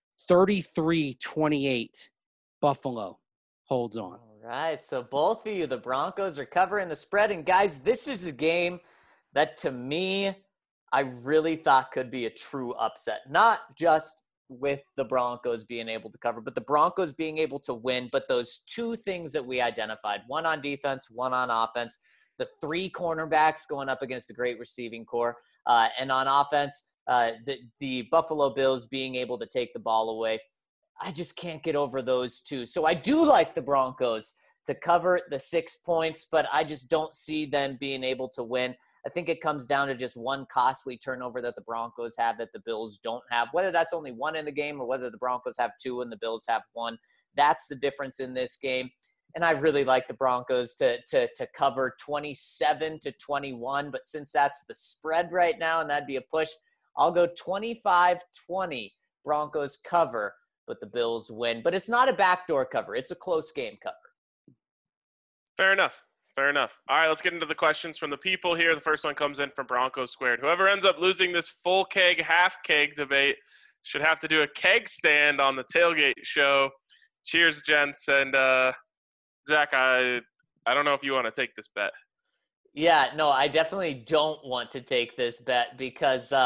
33-28, Buffalo holds on. All right, so both of you, the Broncos are covering the spread. And guys, this is a game that to me, I really thought could be a true upset. Not just with the Broncos being able to cover, but the Broncos being able to win. But those 2 things that we identified, one on defense, one on offense, the 3 cornerbacks going up against the great receiving core, and on offense, the Buffalo Bills being able to take the ball away. I just can't get over those 2. So I do like the Broncos to cover the 6 points, but I just don't see them being able to win. I think it comes down to just one costly turnover that the Broncos have that the Bills don't have, whether that's only 1 in the game or whether the Broncos have 2 and the Bills have 1. That's the difference in this game. And I really like the Broncos to cover 27-21. But since that's the spread right now, and that'd be a push, I'll go 25-20. Broncos cover, but the Bills win. But it's not a backdoor cover. It's a close game cover. Fair enough. All right, let's get into the questions from the people here. The first one comes in from Broncos Squared. Whoever ends up losing this full keg, half keg debate should have to do a keg stand on the tailgate show. Cheers, gents. And Zach, I don't know if you want to take this bet. Yeah, no, I definitely don't want to take this bet because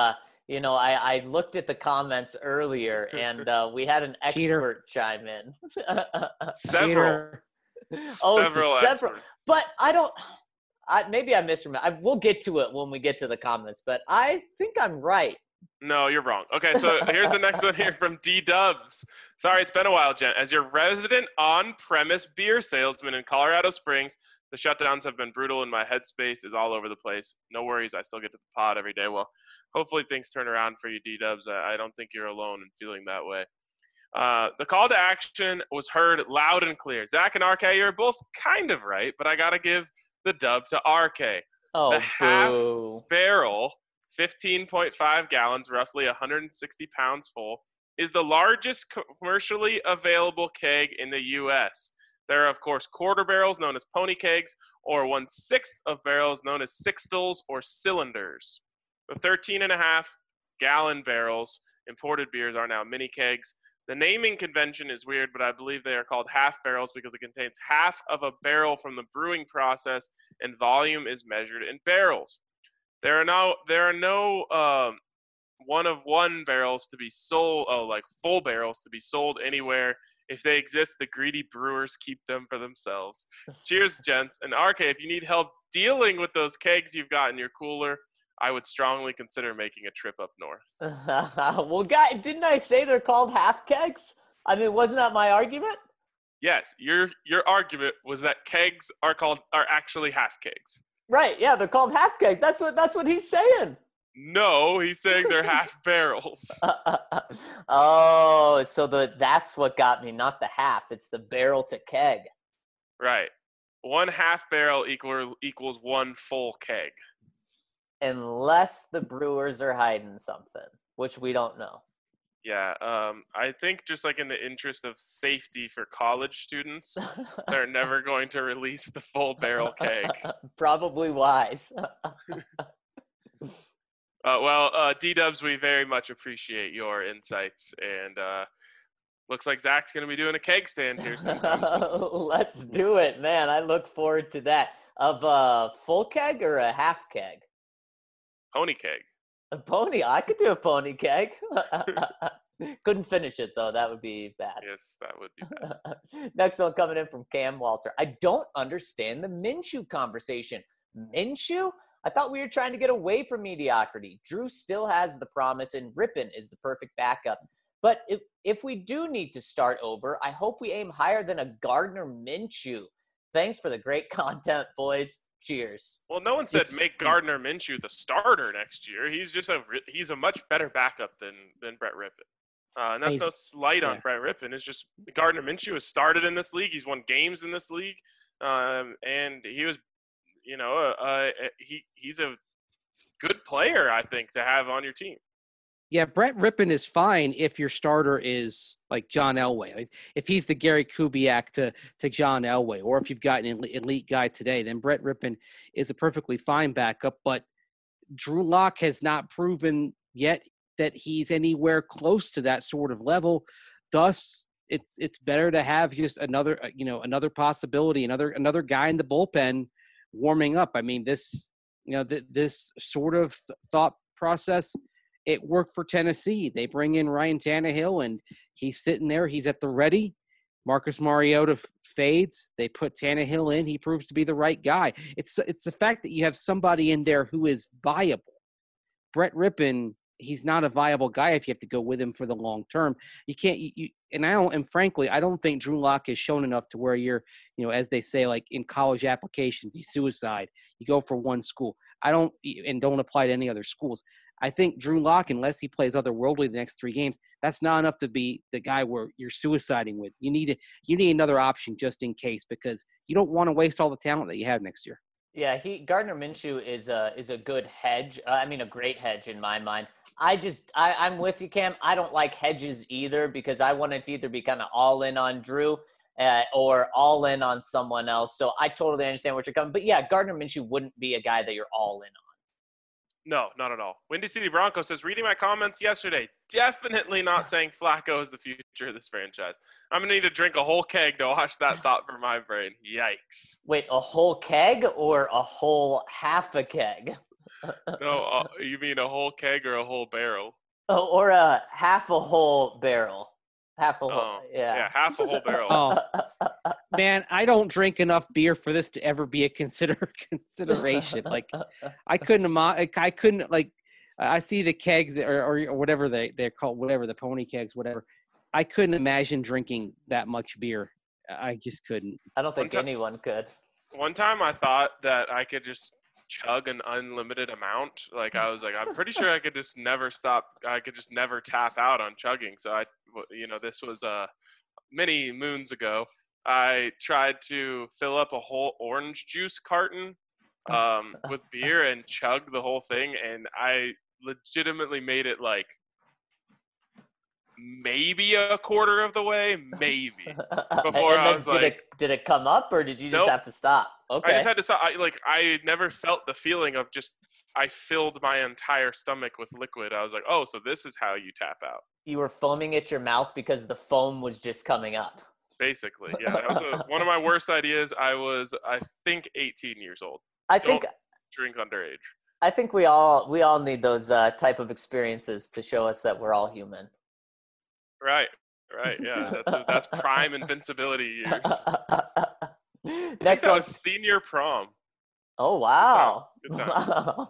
You know, I looked at the comments earlier, and we had an expert chime in. Several Several. experts. But maybe I misremember. We'll get to it when we get to the comments, but I think I'm right. No, you're wrong. Okay, so here's the next one here from D-Dubs. Sorry, it's been a while, Jen. As your resident on-premise beer salesman in Colorado Springs, the shutdowns have been brutal and my headspace is all over the place. No worries, I still get to the pod every day. Well, hopefully things turn around for you, D-Dubs. I don't think you're alone in feeling that way. The call to action was heard loud and clear. Zach and RK, you're both kind of right, but I got to give the dub to RK. Oh, the half boo. barrel, 15.5 gallons, roughly 160 pounds full, is the largest commercially available keg in the U.S. There are, of course, quarter barrels known as pony kegs, or 1/6 of barrels known as sixtels or cylinders. The 13.5-gallon barrels, imported beers, are now mini kegs. The naming convention is weird, but I believe they are called half barrels because it contains half of a barrel from the brewing process, and volume is measured in barrels. There are no one-of-one barrels to be sold, like full barrels to be sold anywhere. If they exist, the greedy brewers keep them for themselves. Cheers, gents. And RK, if you need help dealing with those kegs you've got in your cooler, I would strongly consider making a trip up north. Well, didn't I say they're called half kegs? I mean, wasn't that my argument? Yes, your argument was that kegs are actually half kegs. Right, yeah, they're called half kegs. That's what he's saying. No, he's saying they're half barrels. Oh, so that's what got me, not the half. It's the barrel to keg. Right. 1 half barrel equals 1 full keg. Unless the brewers are hiding something, which we don't know. Yeah, I think just like in the interest of safety for college students, they're never going to release the full barrel keg. Probably wise. D-Dubs, we very much appreciate your insights, and looks like Zach's going to be doing a keg stand here sometime soon. Let's do it, man. I look forward to that. Of a full keg or a half keg? Pony keg. A pony? I could do a pony keg. Couldn't finish it, though. That would be bad. Yes, that would be bad. Next one coming in from Cam Walter. I don't understand the Minshew conversation. Minshew? I thought we were trying to get away from mediocrity. Drew still has the promise, and Rippon is the perfect backup. But if we do need to start over, I hope we aim higher than a Gardner Minshew. Thanks for the great content, boys. Cheers. Well, no one said make Gardner Minshew the starter next year. He's a much better backup than Brett Rippon. And that's no slight on Brett Rippon. It's just Gardner Minshew has started in this league. He's won games in this league, and he was, he's a good player, I think, to have on your team. Yeah, Brett Rippon is fine if your starter is like John Elway. Like if he's the Gary Kubiak to John Elway, or if you've got an elite guy today, then Brett Rippon is a perfectly fine backup. But Drew Lock has not proven yet that he's anywhere close to that sort of level. Thus, it's better to have just another possibility, another guy in the bullpen warming up. I mean, this sort of thought process, it worked for Tennessee. They bring in Ryan Tannehill, and he's sitting there. He's at the ready. Marcus Mariota fades. They put Tannehill in. He proves to be the right guy. It's the fact that you have somebody in there who is viable. Brett Rippon, he's not a viable guy if you have to go with him for the long term. You can't. Frankly, I don't think Drew Lock has shown enough to where you're, as they say, like in college applications, you suicide. You go for one school. Don't apply to any other schools. I think Drew Lock, unless he plays otherworldly the next 3 games, that's not enough to be the guy where you're suiciding with. You need another option just in case, because you don't want to waste all the talent that you have next year. Yeah, Gardner Minshew is a good hedge. A great hedge in my mind. I'm with you, Cam. I don't like hedges either, because I want it to either be kind of all in on Drew or all in on someone else. So I totally understand what you're coming. But yeah, Gardner Minshew wouldn't be a guy that you're all in on. No, not at all. Windy City Bronco says, reading my comments yesterday, definitely not saying Flacco is the future of this franchise. I'm going to need to drink a whole keg to wash that thought from my brain. Yikes. Wait, a whole keg or a whole half a keg? No, you mean a whole keg or a whole barrel? Oh, or a half a whole barrel. Half a whole, Oh, yeah. half a whole barrel. Oh, man, I don't drink enough beer for this to ever be a consideration. Like, I couldn't like. I see the kegs or whatever they're called, whatever the pony kegs, whatever. I couldn't imagine drinking that much beer. I just couldn't. I don't think anyone could. One time I thought that I could just chug an unlimited amount. Like I was like, I'm pretty sure I could just never stop. I could just never tap out on chugging. So this was many moons ago. I tried to fill up a whole orange juice carton with beer and chug the whole thing, and I legitimately made it like maybe a quarter of the way, maybe. Before I was like, did it come up, or did you just have to stop? Okay. I just had to stop. I never felt the feeling of just, I filled my entire stomach with liquid. I was like, oh, so this is how you tap out. You were foaming at your mouth because the foam was just coming up. Basically, yeah. That was one of my worst ideas. I was, I think, 18 years old. Don't drink underage. I think we all need those type of experiences to show us that we're all human. Right, yeah. That's prime invincibility years. Next one, senior prom. Oh wow! Good times.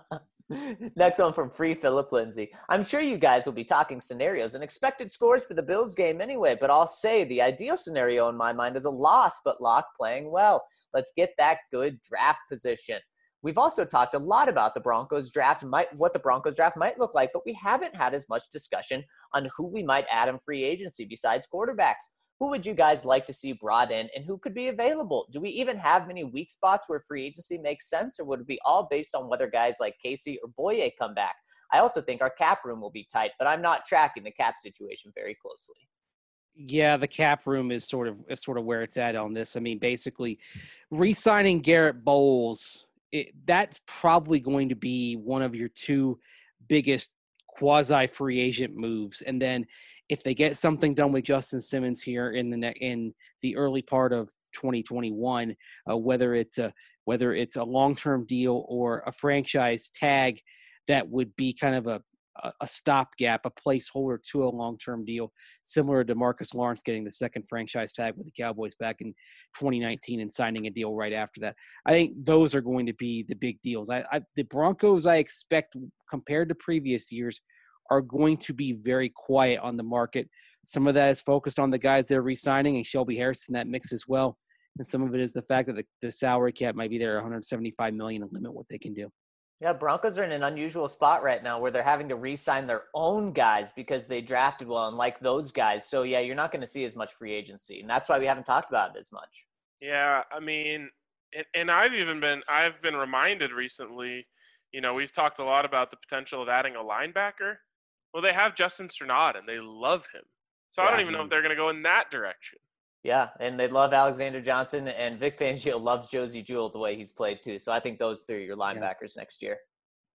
Next one from Free Philip Lindsay. I'm sure you guys will be talking scenarios and expected scores for the Bills game anyway, but I'll say the ideal scenario in my mind is a loss, but Locke playing well. Let's get that good draft position. We've also talked a lot about the Broncos draft, what the Broncos draft might look like, but we haven't had as much discussion on who we might add in free agency besides quarterbacks. Who would you guys like to see brought in, and who could be available? Do we even have many weak spots where free agency makes sense, or would it be all based on whether guys like Casey or Boye come back? I also think our cap room will be tight, but I'm not tracking the cap situation very closely. Yeah, the cap room is sort of where it's at on this. I mean, basically, re-signing Garrett Bowles, that's probably going to be one of your two biggest quasi-free agent moves, and then if they get something done with Justin Simmons here in the early part of 2021, whether it's a long-term deal or a franchise tag, that would be kind of a stopgap, a placeholder to a long-term deal, similar to Marcus Lawrence getting the second franchise tag with the Cowboys back in 2019 and signing a deal right after that. I think those are going to be the big deals. The Broncos, I expect, compared to previous years, are going to be very quiet on the market. Some of that is focused on the guys they're re-signing, and Shelby Harris in that mix as well. And some of it is the fact that the salary cap might be there, $175 million, and limit what they can do. Yeah, Broncos are in an unusual spot right now where they're having to re-sign their own guys because they drafted well and like those guys. So, yeah, you're not going to see as much free agency, and that's why we haven't talked about it as much. Yeah, I mean, and I've been reminded recently, we've talked a lot about the potential of adding a linebacker. Well, they have Justin Strnad, and they love him. So I don't even know if they're going to go in that direction. Yeah, and they love Alexander Johnson, and Vic Fangio loves Josie Jewell the way he's played too. So I think those three are your linebackers next year.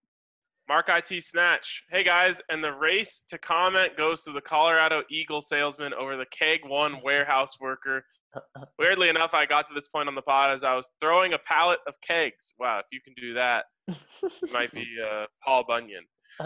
Mark IT Snatch. Hey, guys, and the race to comment goes to the Colorado Eagle salesman over the Keg One warehouse worker. Weirdly enough, I got to this point on the pod as I was throwing a pallet of kegs. Wow, if you can do that, you might be Paul Bunyan.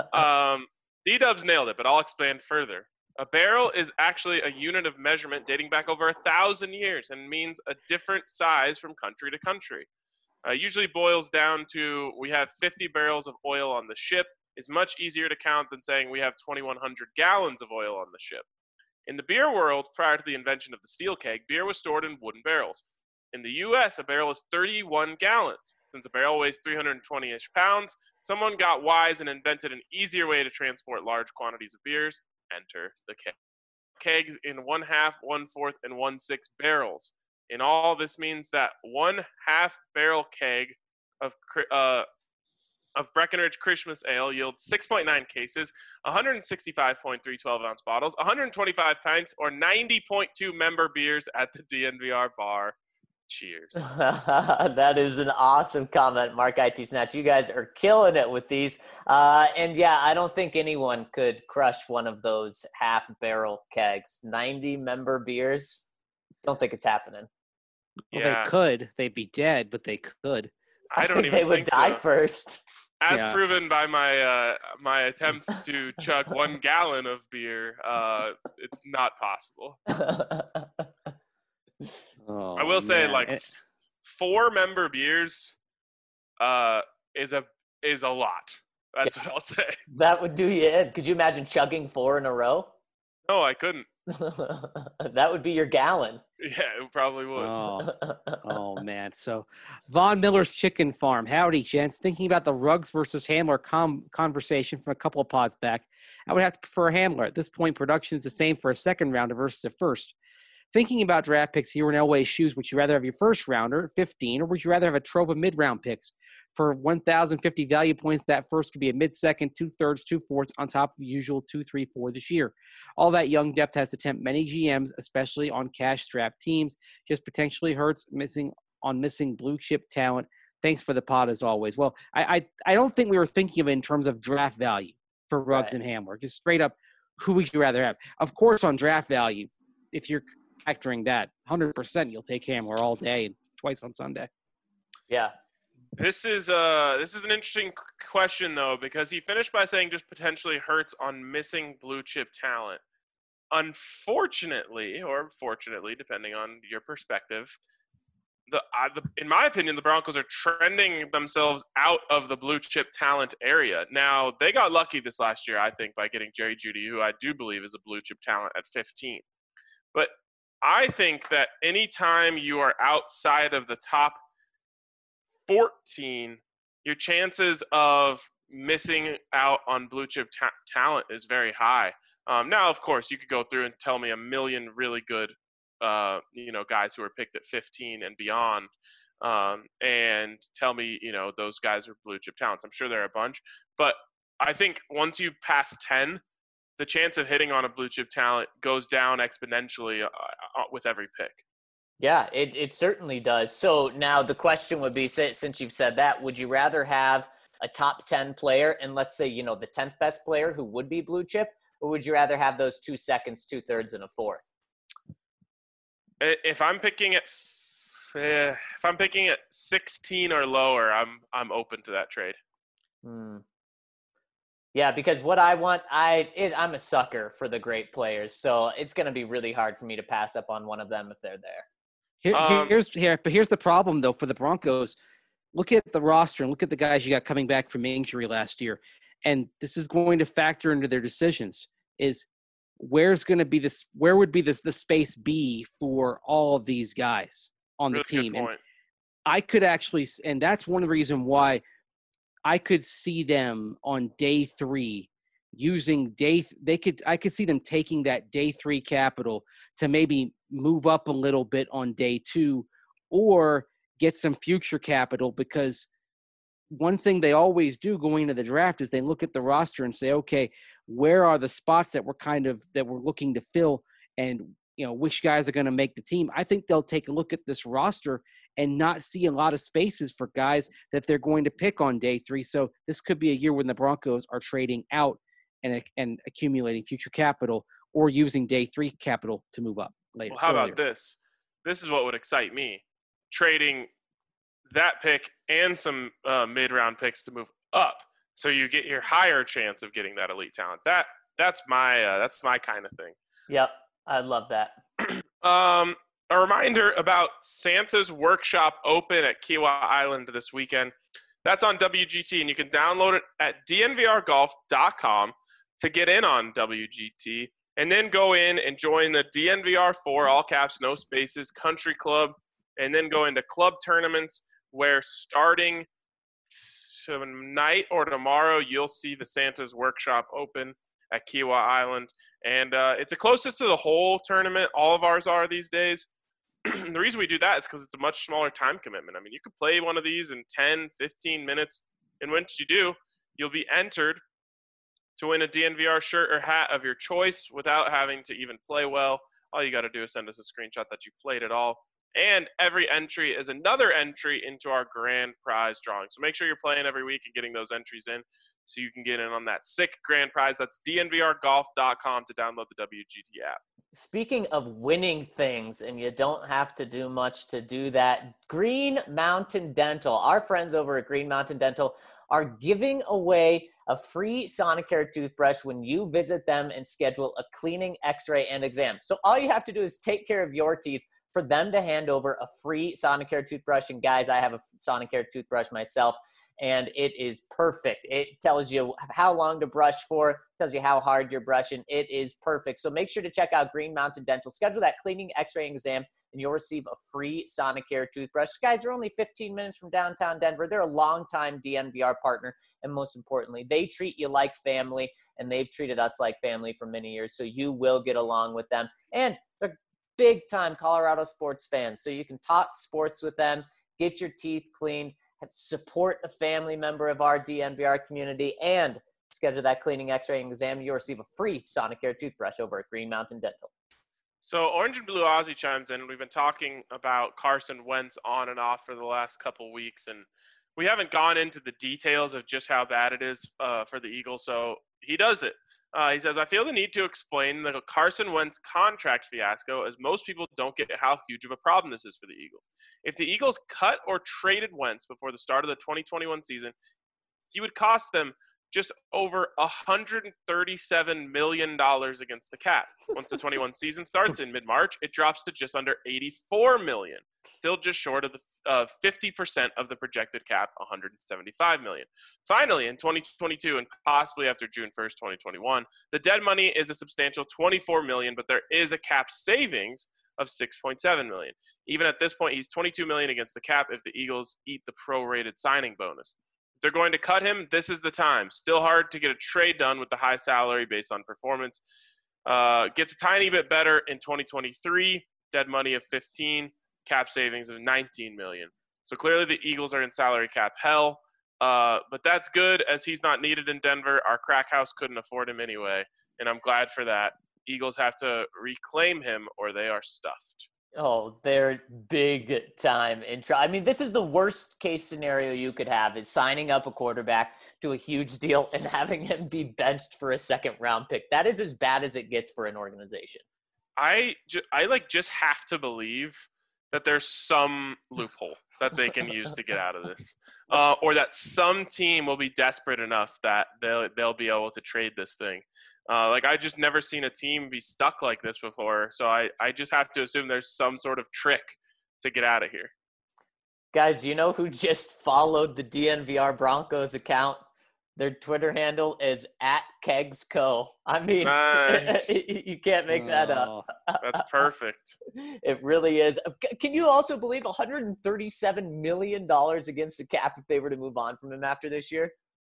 D-Dubs nailed it, but I'll expand further. A barrel is actually a unit of measurement dating back over 1,000 years and means a different size from country to country. Usually boils down to we have 50 barrels of oil on the ship is much easier to count than saying we have 2,100 gallons of oil on the ship. In the beer world, prior to the invention of the steel keg, beer was stored in wooden barrels. In the U.S., a barrel is 31 gallons. Since a barrel weighs 320-ish pounds, someone got wise and invented an easier way to transport large quantities of beers. Enter the keg. Kegs in 1/2, 1/4, and 1/6 barrels. In all, this means that 1/2 barrel keg of Breckenridge Christmas Ale yields 6.9 cases, 165.3 12-ounce bottles, 125 pints, or 90.2 member beers at the DNVR bar. Cheers. That is an awesome comment, Mark IT Snatch. You guys are killing it with these. And yeah, I don't think anyone could crush one of those half barrel kegs. 90 member beers. Don't think it's happening. Well, yeah. They could. They'd be dead, but they could. I think they would die first. as proven by my my attempts to chug 1 gallon of beer, it's not possible. I will say, like, 4-member beers is a lot. That's what I'll say. That would do you in. Could you imagine chugging 4 in a row? No, I couldn't. That would be your gallon. Yeah, it probably would. Oh man. So Von Miller's Chicken Farm. Howdy, gents. Thinking about the Ruggs versus Hamler conversation from a couple of pods back, I would have to prefer Hamler. At this point, production is the same for a second rounder versus a first. Thinking about draft picks here in Elway's shoes, would you rather have your first rounder at 15, or would you rather have a trove of mid-round picks? For 1,050 value points, that first could be a mid-second, 2/3, 2/4 on top of the usual 2, 3, 4 this year. All that young depth has to tempt many GMs, especially on cash-strapped teams. Just potentially hurts missing blue chip talent. Thanks for the pod as always. Well, I don't think we were thinking of it in terms of draft value for Ruggs and Hamler. Just straight up, who would you rather have? Of course, on draft value, if you're factoring that, 100% you'll take Hamler all day and twice on Sunday. Yeah. This is an interesting question, though, because he finished by saying just potentially hurts on missing blue chip talent. Unfortunately, or fortunately, depending on your perspective, in my opinion, the Broncos are trending themselves out of the blue chip talent area. Now, they got lucky this last year, I think, by getting Jerry Jeudy, who I do believe is a blue chip talent at 15. But I think that anytime you are outside of the top 14, your chances of missing out on blue chip talent is very high. Now, of course, you could go through and tell me a million really good, guys who are picked at 15 and beyond, and tell me, those guys are blue chip talents. I'm sure there are a bunch, but I think once you pass 10, the chance of hitting on a blue chip talent goes down exponentially with every pick. Yeah, it certainly does. So now the question would be, since you've said that, would you rather have a top 10 player and let's say, the 10th best player who would be blue chip, or would you rather have those 2 seconds, 2/3, and a 4th? If I'm picking at 16 or lower, I'm open to that trade. Yeah, because what I want, I'm a sucker for the great players, so it's going to be really hard for me to pass up on one of them if they're there. Here's the problem though for the Broncos. Look at the roster and look at the guys you got coming back from injury last year, and this is going to factor into their decisions. Is where would be the space be for all of these guys on the team? And I could actually, and that's one reason why I could see them on day 3 using I could see them taking that day 3 capital to maybe move up a little bit on day 2 or get some future capital, because one thing they always do going into the draft is they look at the roster and say, okay, where are the spots that we're looking to fill, and which guys are going to make the team. I think they'll take a look at this roster and not see a lot of spaces for guys that they're going to pick on day 3. So this could be a year when the Broncos are trading out and accumulating future capital or using day 3 capital to move up later. Well, how about this? This is what would excite me. Trading that pick and some mid-round picks to move up, so you get your higher chance of getting that elite talent. That's my kind of thing. Yep, I love that. A reminder about Santa's Workshop Open at Kiawah Island this weekend. That's on WGT, and you can download it at dnvrgolf.com to get in on WGT, and then go in and join the DNVR4, all caps, no spaces, country club, and then go into club tournaments where starting tonight or tomorrow, you'll see the Santa's Workshop Open at Kiawah Island. And it's the closest to the whole tournament. All of ours are these days. The reason we do that is because it's a much smaller time commitment. I mean, you could play one of these in 10, 15 minutes. And once you do, you'll be entered to win a DNVR shirt or hat of your choice without having to even play well. All you got to do is send us a screenshot that you played it all. And every entry is another entry into our grand prize drawing. So make sure you're playing every week and getting those entries in so you can get in on that sick grand prize. That's dnvrgolf.com to download the WGT app. Speaking of winning things, and you don't have to do much to do that, Green Mountain Dental, our friends over at Green Mountain Dental are giving away a free Sonicare toothbrush when you visit them and schedule a cleaning, x-ray, and exam. So all you have to do is take care of your teeth for them to hand over a free Sonicare toothbrush. And guys, I have a Sonicare toothbrush myself, and it is perfect. It tells you how long to brush for, tells you how hard you're brushing. It is perfect. So make sure to check out Green Mountain Dental. Schedule that cleaning, x-ray, and exam, and you'll receive a free Sonicare toothbrush. Guys, they're only 15 minutes from downtown Denver. They're a longtime DNVR partner, and most importantly, they treat you like family, and they've treated us like family for many years, so you will get along with them. And they're big-time Colorado sports fans, so you can talk sports with them, get your teeth cleaned, support a family member of our DNVR community, and schedule that cleaning, x-ray, and exam. You'll receive a free Sonicare toothbrush over at Green Mountain Dental. So Orange and Blue Ozzy chimes in. We've been talking about Carson Wentz on and off for the last couple weeks, and we haven't gone into the details of just how bad it is for the Eagles. So he does it. He says, I feel the need to explain the Carson Wentz contract fiasco, as most people don't get how huge of a problem this is for the Eagles. If the Eagles cut or traded Wentz before the start of the 2021 season, he would cost them just over $137 million against the cap. Once the 21 season starts in mid-March, it drops to just under $84 million, still just short of the 50% of the projected cap, $175 million. Finally, in 2022 and possibly after June 1st, 2021, the dead money is a substantial $24 million, but there is a cap savings of $6.7 million. Even at this point, he's $22 million against the cap if the Eagles eat the prorated signing bonus. They're going to cut him. This is the time. Still hard to get a trade done with the high salary based on performance. Gets a tiny bit better in 2023. Dead money of 15, cap savings of 19 million. So clearly the Eagles are in salary cap hell. But that's good, as he's not needed in Denver. Our crack house couldn't afford him anyway, and I'm glad for that. Eagles have to reclaim him or they are stuffed. Oh, they're big time in trouble. I mean, this is the worst case scenario you could have, is signing up a quarterback to a huge deal and having him be benched for a second round pick. That is as bad as it gets for an organization. I just have to believe that there's some loophole that they can use to get out of this, or that some team will be desperate enough that they'll be able to trade this thing. I just never seen a team be stuck like this before. So I just have to assume there's some sort of trick to get out of here. Guys, you know who just followed the DNVR Broncos account? Their Twitter handle is @KegsCo. I mean, nice. You can't make that up. That's perfect. It really is. Can you also believe $137 million against the cap if they were to move on from him after this year?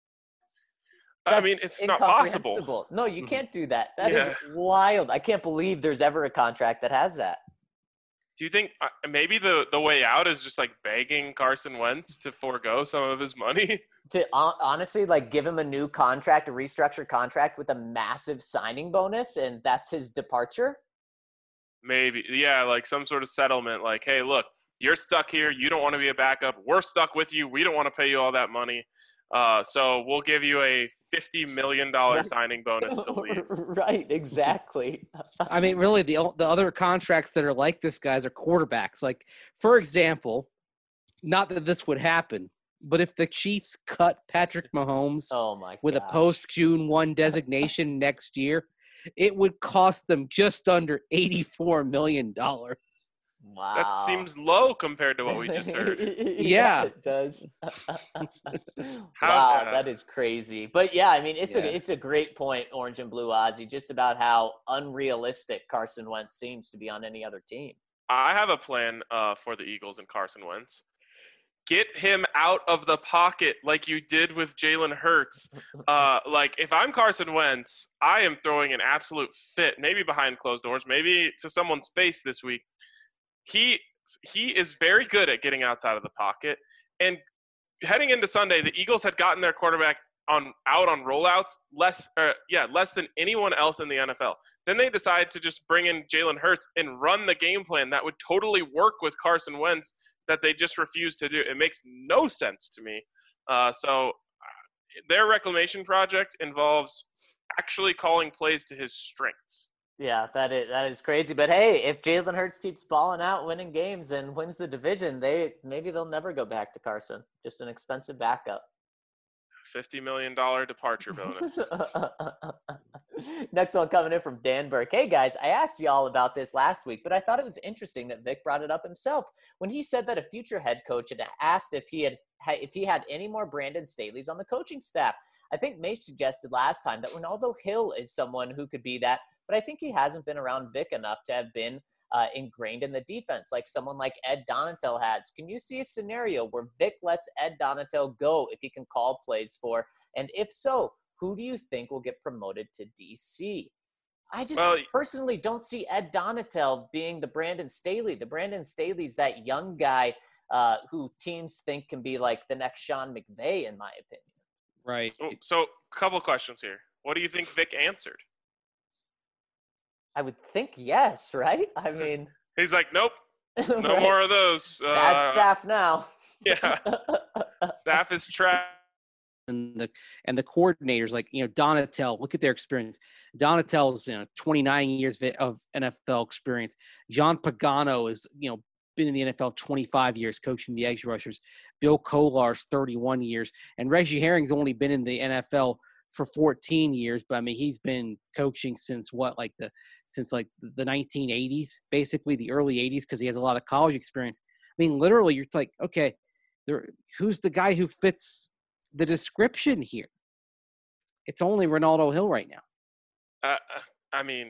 I mean, it's not possible. No, you can't do that. That is wild. I can't believe there's ever a contract that has that. Do you think maybe the way out is just like begging Carson Wentz to forego some of his money? To honestly, give him a new contract, a restructured contract with a massive signing bonus, and that's his departure? Maybe. Yeah, like some sort of settlement. Like, hey, look, you're stuck here. You don't want to be a backup. We're stuck with you. We don't want to pay you all that money. So we'll give you a $50 million signing bonus to leave. Right, exactly. I mean, really, the other contracts that are like this, guys, are quarterbacks. Like, for example, not that this would happen, but if the Chiefs cut Patrick Mahomes with a post-June 1 designation next year, it would cost them just under $84 million. Wow. That seems low compared to what we just heard. Yeah, it does. Wow, that is crazy. But yeah, I mean, it's a great point, Orange and Blue Ozzy, just about how unrealistic Carson Wentz seems to be on any other team. I have a plan for the Eagles and Carson Wentz. Get him out of the pocket like you did with Jalen Hurts. If I'm Carson Wentz, I am throwing an absolute fit, maybe behind closed doors, maybe to someone's face this week. He is very good at getting outside of the pocket. And heading into Sunday, the Eagles had gotten their quarterback out on rollouts less than anyone else in the NFL. Then they decided to just bring in Jalen Hurts and run the game plan that would totally work with Carson Wentz that they just refused to do. It makes no sense to me. So their reclamation project involves actually calling plays to his strengths. Yeah, that is crazy. But hey, if Jalen Hurts keeps balling out, winning games, and wins the division, maybe they'll never go back to Carson. Just an expensive backup. $50 million departure bonus. Next one coming in from Dan Burke. Hey guys, I asked y'all about this last week, but I thought it was interesting that Vic brought it up himself when he said that a future head coach had asked if he had any more Brandon Staley's on the coaching staff. I think May suggested last time that Ronaldo Hill is someone who could be that, but I think he hasn't been around Vic enough to have been ingrained in the defense like someone like Ed Donatel has. Can you see a scenario where Vic lets Ed Donatel go if he can call plays for? And if so, who do you think will get promoted to DC? I just personally don't see Ed Donatel being the Brandon Staley. The Brandon Staley's that young guy who teams think can be like the next Sean McVay, in my opinion. Right. So a couple of questions here. What do you think Vic answered? I would think yes, right? I mean, he's like, nope, no right? More of those. Bad staff now. Yeah, staff is trash. And the coordinators, like, Donatel, look at their experience. Donatel's 29 years of NFL experience. John Pagano is been in the NFL 25 years, coaching the edge rushers. Bill Kolar's 31 years, and Reggie Herring's only been in the NFL for 14 years, but I mean, he's been coaching since the 1980s, basically the early 80s, because he has a lot of college experience. I mean, literally, you're like, okay, who's the guy who fits the description here? It's only Ronaldo Hill right now. I mean,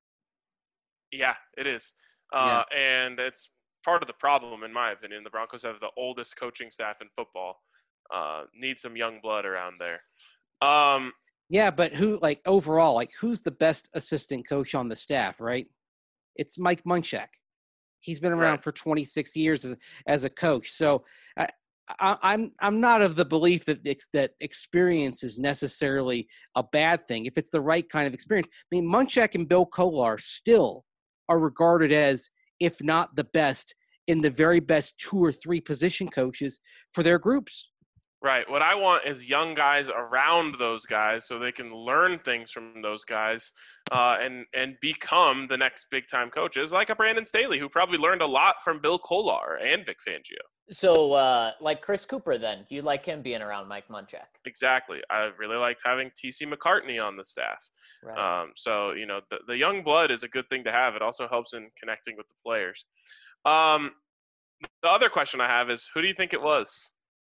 yeah, it is. Yeah. And it's part of the problem, in my opinion. The Broncos have the oldest coaching staff in football. Need some young blood around there. Yeah, but overall, who's the best assistant coach on the staff, right? It's Mike Munchak. He's been around for 26 years as a coach. So I'm not of the belief that experience is necessarily a bad thing if it's the right kind of experience. I mean, Munchak and Bill Kolar still are regarded as, if not the best, in the very best 2 or 3 position coaches for their groups. Right. What I want is young guys around those guys so they can learn things from those guys and become the next big-time coaches, like a Brandon Staley, who probably learned a lot from Bill Kolar and Vic Fangio. So, like Chris Cooper, then, you like him being around Mike Munchak? Exactly. I really liked having T.C. McCartney on the staff. Right. So, the young blood is a good thing to have. It also helps in connecting with the players. The other question I have is, who do you think it was?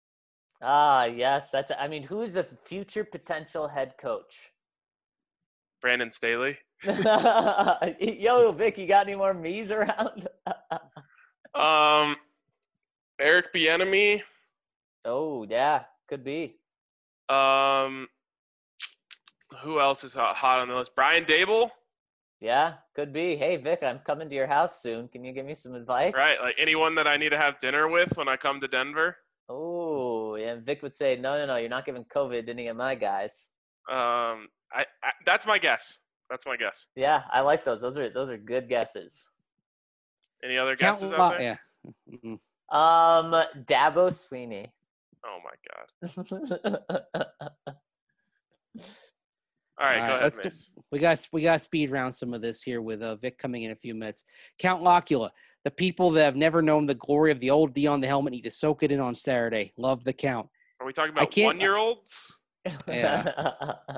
Yes. Who's a future potential head coach? Brandon Staley. Yo, Vic, you got any more me's around? Eric Bieniemy. Oh, yeah, could be. Who else is hot on the list? Brian Daboll. Yeah, could be. Hey, Vic, I'm coming to your house soon. Can you give me some advice? Right, like anyone that I need to have dinner with when I come to Denver. Oh, yeah. Vic would say, no, you're not giving COVID to any of my guys. That's my guess. Yeah, I like those. Those are good guesses. Any other guesses out there? Yeah. Mm-hmm. Dabo Sweeney. Oh my God. All right, go ahead, Mace. We got speed round some of this here with Vic coming in a few minutes. Count Locula. The people that have never known the glory of the old D on the helmet need to soak it in on Saturday. Love the count. Are we talking about 1-year-olds? Yeah.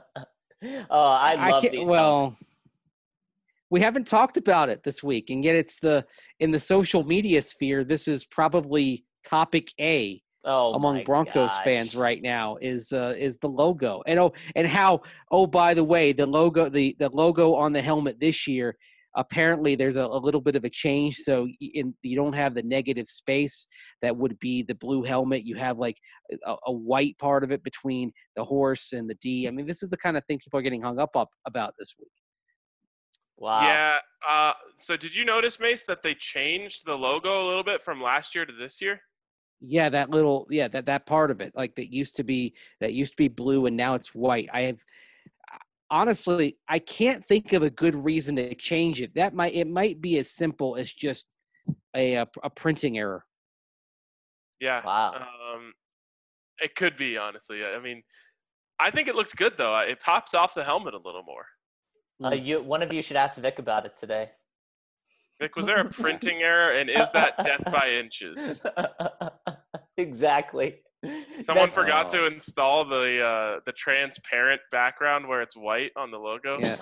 I love these. Well, we haven't talked about it this week, and yet it's in the social media sphere. This is probably topic A among Broncos fans right now is the logo, and how by the way, the logo on the helmet this year. Apparently, there's a little bit of a change. So you don't have the negative space that would be the blue helmet. You have like a white part of it between the horse and the D. I mean, this is the kind of thing people are getting hung up about this week. Wow. Yeah. So did you notice, Mace, that they changed the logo a little bit from last year to this year? Yeah, that part of it, like that used to be blue and now it's white. Honestly, I can't think of a good reason to change it. It might be as simple as just a printing error. Yeah. Wow. It could be, honestly. I mean, I think it looks good though. It pops off the helmet a little more. One of you should ask Vic about it today. Vic, was there a printing error, and is that death by inches? Exactly. Someone forgot to install the transparent background where it's white on the logo. Yeah.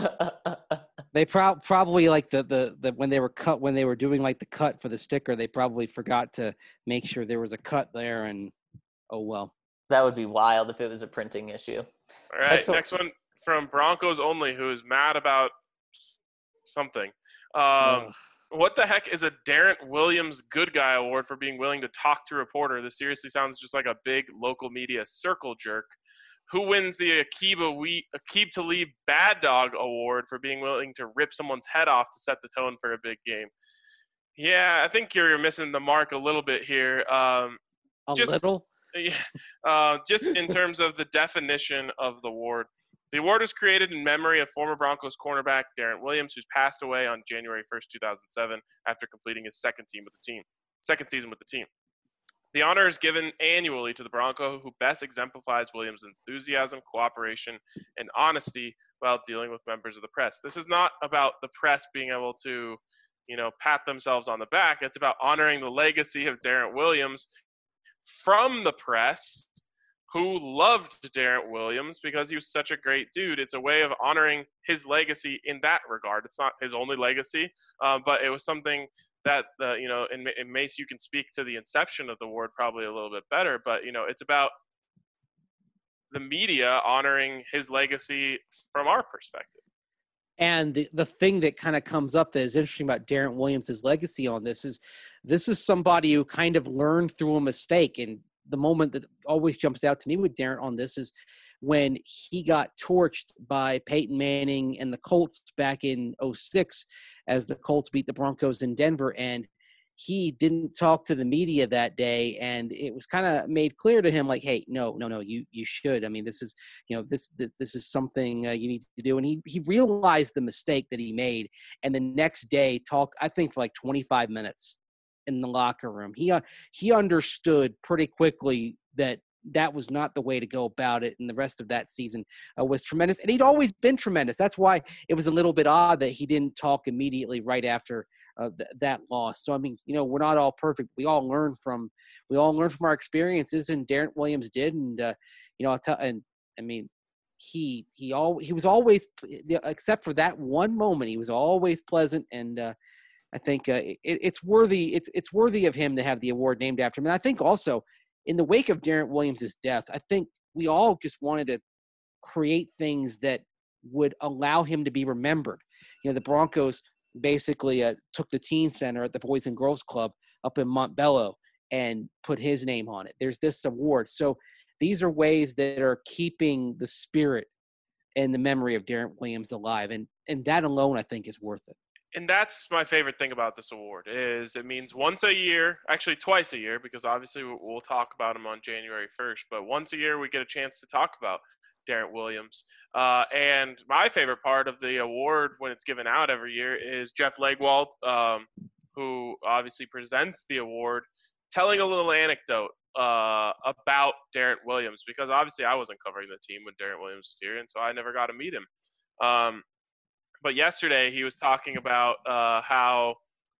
They probably like the when they were doing like the cut for the sticker, they probably forgot to make sure there was a cut there, and oh well. That would be wild if it was a printing issue. All right, next one from Broncos Only, who is mad about something. What the heck is a Darren Williams Good Guy Award for being willing to talk to a reporter? This seriously sounds just like a big local media circle jerk. Who wins the Aqib Talib Bad Dog Award for being willing to rip someone's head off to set the tone for a big game? Yeah, I think you're missing the mark a little bit here. Little? Yeah, just in terms of the definition of the award. The award was created in memory of former Broncos cornerback Darren Williams, who's passed away on January 1st, 2007, after completing his second season with the team. The honor is given annually to the Bronco who best exemplifies Williams' enthusiasm, cooperation, and honesty while dealing with members of the press. This is not about the press being able to, pat themselves on the back. It's about honoring the legacy of Darren Williams from the press, who loved Darren Williams because he was such a great dude. It's a way of honoring his legacy in that regard. It's not his only legacy, but it was something that, in Mace, you can speak to the inception of the award probably a little bit better, but, it's about the media honoring his legacy from our perspective. And the thing that kind of comes up that is interesting about Darren Williams' legacy on this is somebody who kind of learned through a mistake. And the moment that always jumps out to me with Darren on this is when he got torched by Peyton Manning and the Colts back in 2006 as the Colts beat the Broncos in Denver. And he didn't talk to the media that day, and it was kind of made clear to him, like, hey, no, you should. I mean, this is, this is something you need to do. And he realized the mistake that he made, and the next day talked, I think, for like 25 minutes in the locker room. He understood pretty quickly that was not the way to go about it, and the rest of that season was tremendous. And he'd always been tremendous. That's why it was a little bit odd that he didn't talk immediately right after that loss. So I mean, we're not all perfect. We all learn from our experiences, and Darren Williams did. And I'll tell. And I mean, he was always, except for that one moment, he was always pleasant. And I think it's worthy. It's worthy of him to have the award named after him. And I think also, in the wake of Darren Williams' death, I think we all just wanted to create things that would allow him to be remembered. The Broncos basically took the teen center at the Boys and Girls Club up in Montbello and put his name on it. There's this award. So these are ways that are keeping the spirit and the memory of Darren Williams alive. And that alone, I think, is worth it. And that's my favorite thing about this award is it means once a year, actually twice a year, because obviously we'll talk about him on January 1st, but once a year we get a chance to talk about Darren Williams. And my favorite part of the award when it's given out every year is Jeff Legwold, who obviously presents the award, telling a little anecdote about Darren Williams, because obviously I wasn't covering the team when Darren Williams was here, and so I never got to meet him. But yesterday he was talking about how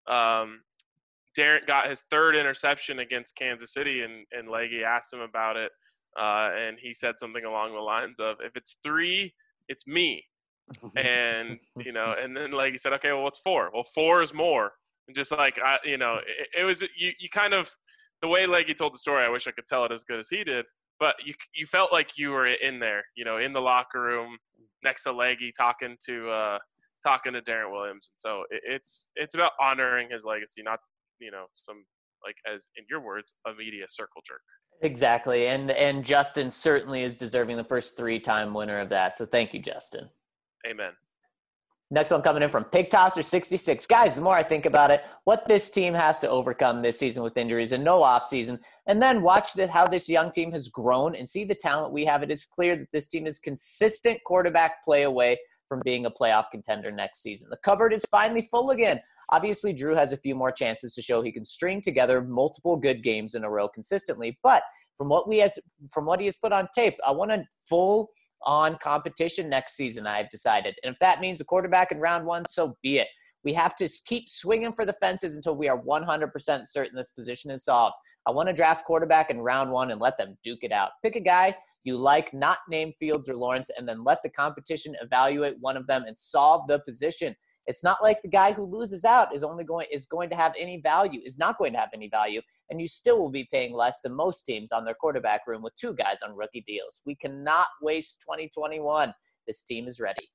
Darren got his third interception against Kansas City, and Leggy asked him about it, and he said something along the lines of, if it's 3, it's me. And, and then Leggy said, okay, well, what's 4? Well, 4 is more. And just like, it was, you kind of, the way Leggy told the story, I wish I could tell it as good as he did, but you felt like you were in there, in the locker room next to Leggy talking to Darren Williams. And so it's about honoring his legacy, not, some, like, as in your words, a media circle jerk. Exactly. And Justin certainly is deserving the first 3-time winner of that. So thank you, Justin. Amen. Next one coming in from Pig Tosser 66. Guys, the more I think about it, what this team has to overcome this season with injuries and no off season, and then watch how this young team has grown and see the talent we have, it is clear that this team is consistent quarterback play away from being a playoff contender next season. The cupboard is finally full again. Obviously, Drew has a few more chances to show he can string together multiple good games in a row consistently. But from what he has put on tape, I want a full-on competition next season, I've decided. And if that means a quarterback in round 1, so be it. We have to keep swinging for the fences until we are 100% certain this position is solved. I want to draft quarterback in round 1 and let them duke it out. Pick a guy you like, not name Fields or Lawrence, and then let the competition evaluate one of them and solve the position. It's not like the guy who loses out is going to have any value, is not going to have any value, and you still will be paying less than most teams on their quarterback room with 2 guys on rookie deals. We cannot waste 2021. This team is ready.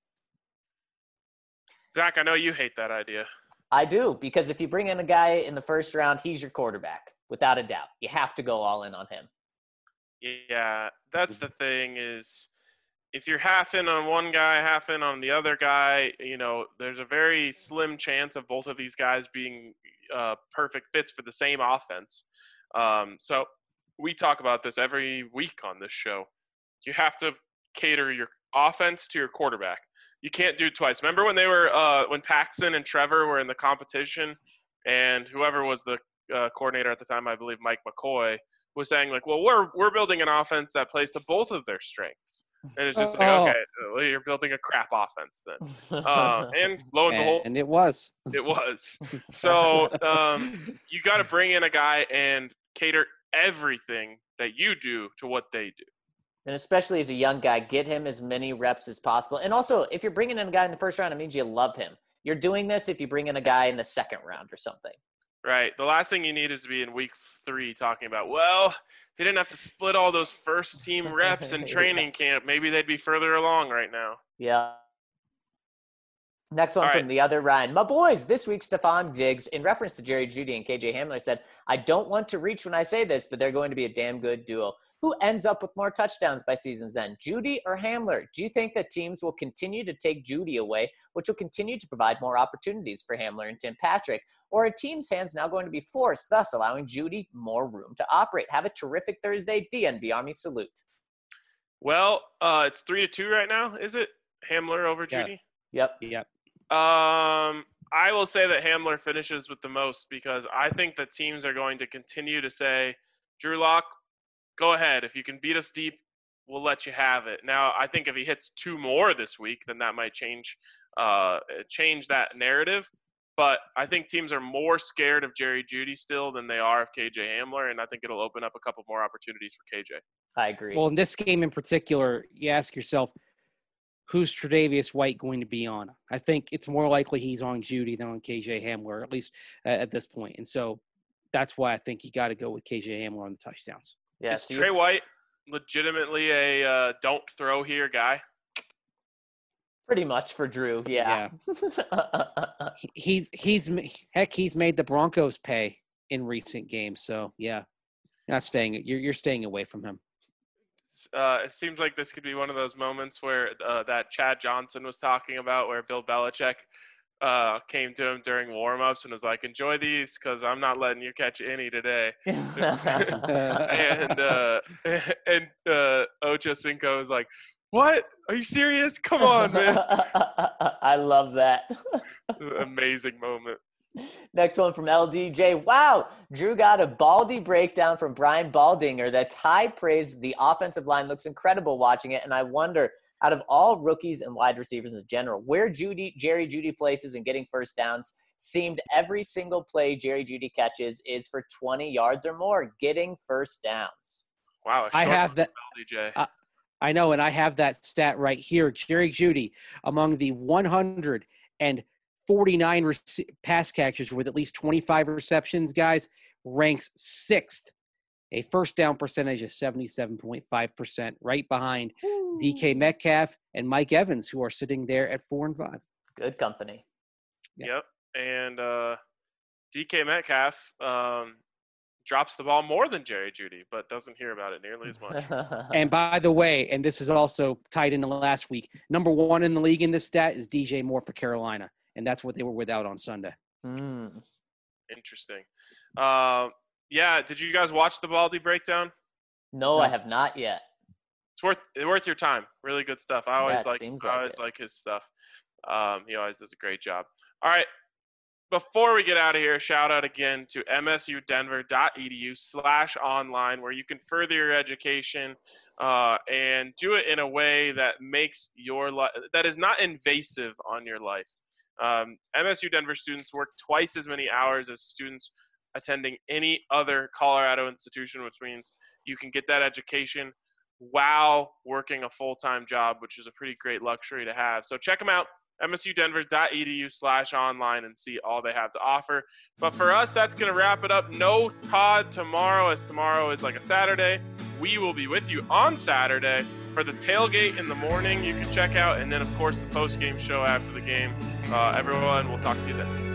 Zach, I know you hate that idea. I do, because if you bring in a guy in the first round, he's your quarterback, without a doubt. You have to go all in on him. Yeah, that's the thing is if you're half in on one guy, half in on the other guy, there's a very slim chance of both of these guys being perfect fits for the same offense. So we talk about this every week on this show. You have to cater your offense to your quarterback. You can't do it twice. Remember when when Paxton and Trevor were in the competition, and whoever was the coordinator at the time, I believe Mike McCoy, was saying like, well, we're building an offense that plays to both of their strengths. And it's just like, okay, well, you're building a crap offense then. And lo and behold, and it was. It was. So you got to bring in a guy and cater everything that you do to what they do. And especially as a young guy, get him as many reps as possible. And also, if you're bringing in a guy in the first round, it means you love him. You're doing this if you bring in a guy in the second round or something. Right. The last thing you need is to be in week 3 talking about, well, they didn't have to split all those first team reps in training camp. Maybe they'd be further along right now. Yeah. Next one from the other Ryan. My boys, this week, Stephon Diggs, in reference to Jerry Jeudy and KJ Hamler, said, I don't want to reach when I say this, but they're going to be a damn good duo. Who ends up with more touchdowns by season's end, Jeudy or Hamler? Do you think that teams will continue to take Jeudy away, which will continue to provide more opportunities for Hamler and Tim Patrick? Or are teams' hands now going to be forced, thus allowing Jeudy more room to operate? Have a terrific Thursday. DNV Army salute. Well, it's 3-2 right now, is it? Hamler over Jeudy? Yep. I will say that Hamler finishes with the most because I think that teams are going to continue to say, Drew Lock, go ahead. If you can beat us deep, we'll let you have it. Now, I think if he hits 2 more this week, then that might change that narrative. But I think teams are more scared of Jerry Jeudy still than they are of KJ Hamler, and I think it'll open up a couple more opportunities for KJ. I agree. Well, in this game in particular, you ask yourself, who's Tre'Davious White going to be on? I think it's more likely he's on Jeudy than on KJ Hamler, at least at this point. And so that's why I think you got to go with KJ Hamler on the touchdowns. Yeah, is Trey White legitimately a don't throw here guy? Pretty much for Drew, yeah. He's made the Broncos pay in recent games, so yeah, you're staying away from him. It seems like this could be one of those moments where that Chad Johnson was talking about, where Bill Belichick came to him during warm-ups and was like, enjoy these because I'm not letting you catch any today. and Ocho Cinco was like, what? Are you serious? Come on, man. I love that. Amazing moment. Next one from LDJ. Wow, Drew got a Baldy breakdown from Brian Baldinger. That's high praise. The offensive line looks incredible watching it, and I wonder, out of all rookies and wide receivers in general, where Jerry Jeudy places in getting first downs seemed every single play Jerry Jeudy catches is for 20 yards or more, getting first downs. Wow, I have that. LDJ. I know, and I have that stat right here. Jerry Jeudy, among the 149 pass catchers with at least 25 receptions, guys, ranks 6th. A first down percentage of 77.5%, right behind DK Metcalf and Mike Evans, who are sitting there at 4 and 5. Good company. Yep. And DK Metcalf drops the ball more than Jerry Jeudy, but doesn't hear about it nearly as much. And by the way, and this is also tied into last week, number 1 in the league in this stat is DJ Moore for Carolina, and that's what they were without on Sunday. Interesting. Yeah, did you guys watch the Baldy breakdown? No, I have not yet. It's worth your time. Really good stuff. I always like his stuff. He always does a great job. All right. Before we get out of here, shout out again to msudenver.edu/online, where you can further your education and do it in a way that makes your life that is not invasive on your life. MSU Denver students work twice as many hours as students attending any other Colorado institution, which means you can get that education while working a full-time job, which is a pretty great luxury to have. So check them out, msudenver.edu/online, and see all they have to offer. But for us, that's going to wrap it up. No Todd tomorrow, as tomorrow is like a Saturday. We will be with you on Saturday for the tailgate in the morning. You can check out, and then, of course, the post-game show after the game. Everyone, we'll talk to you then.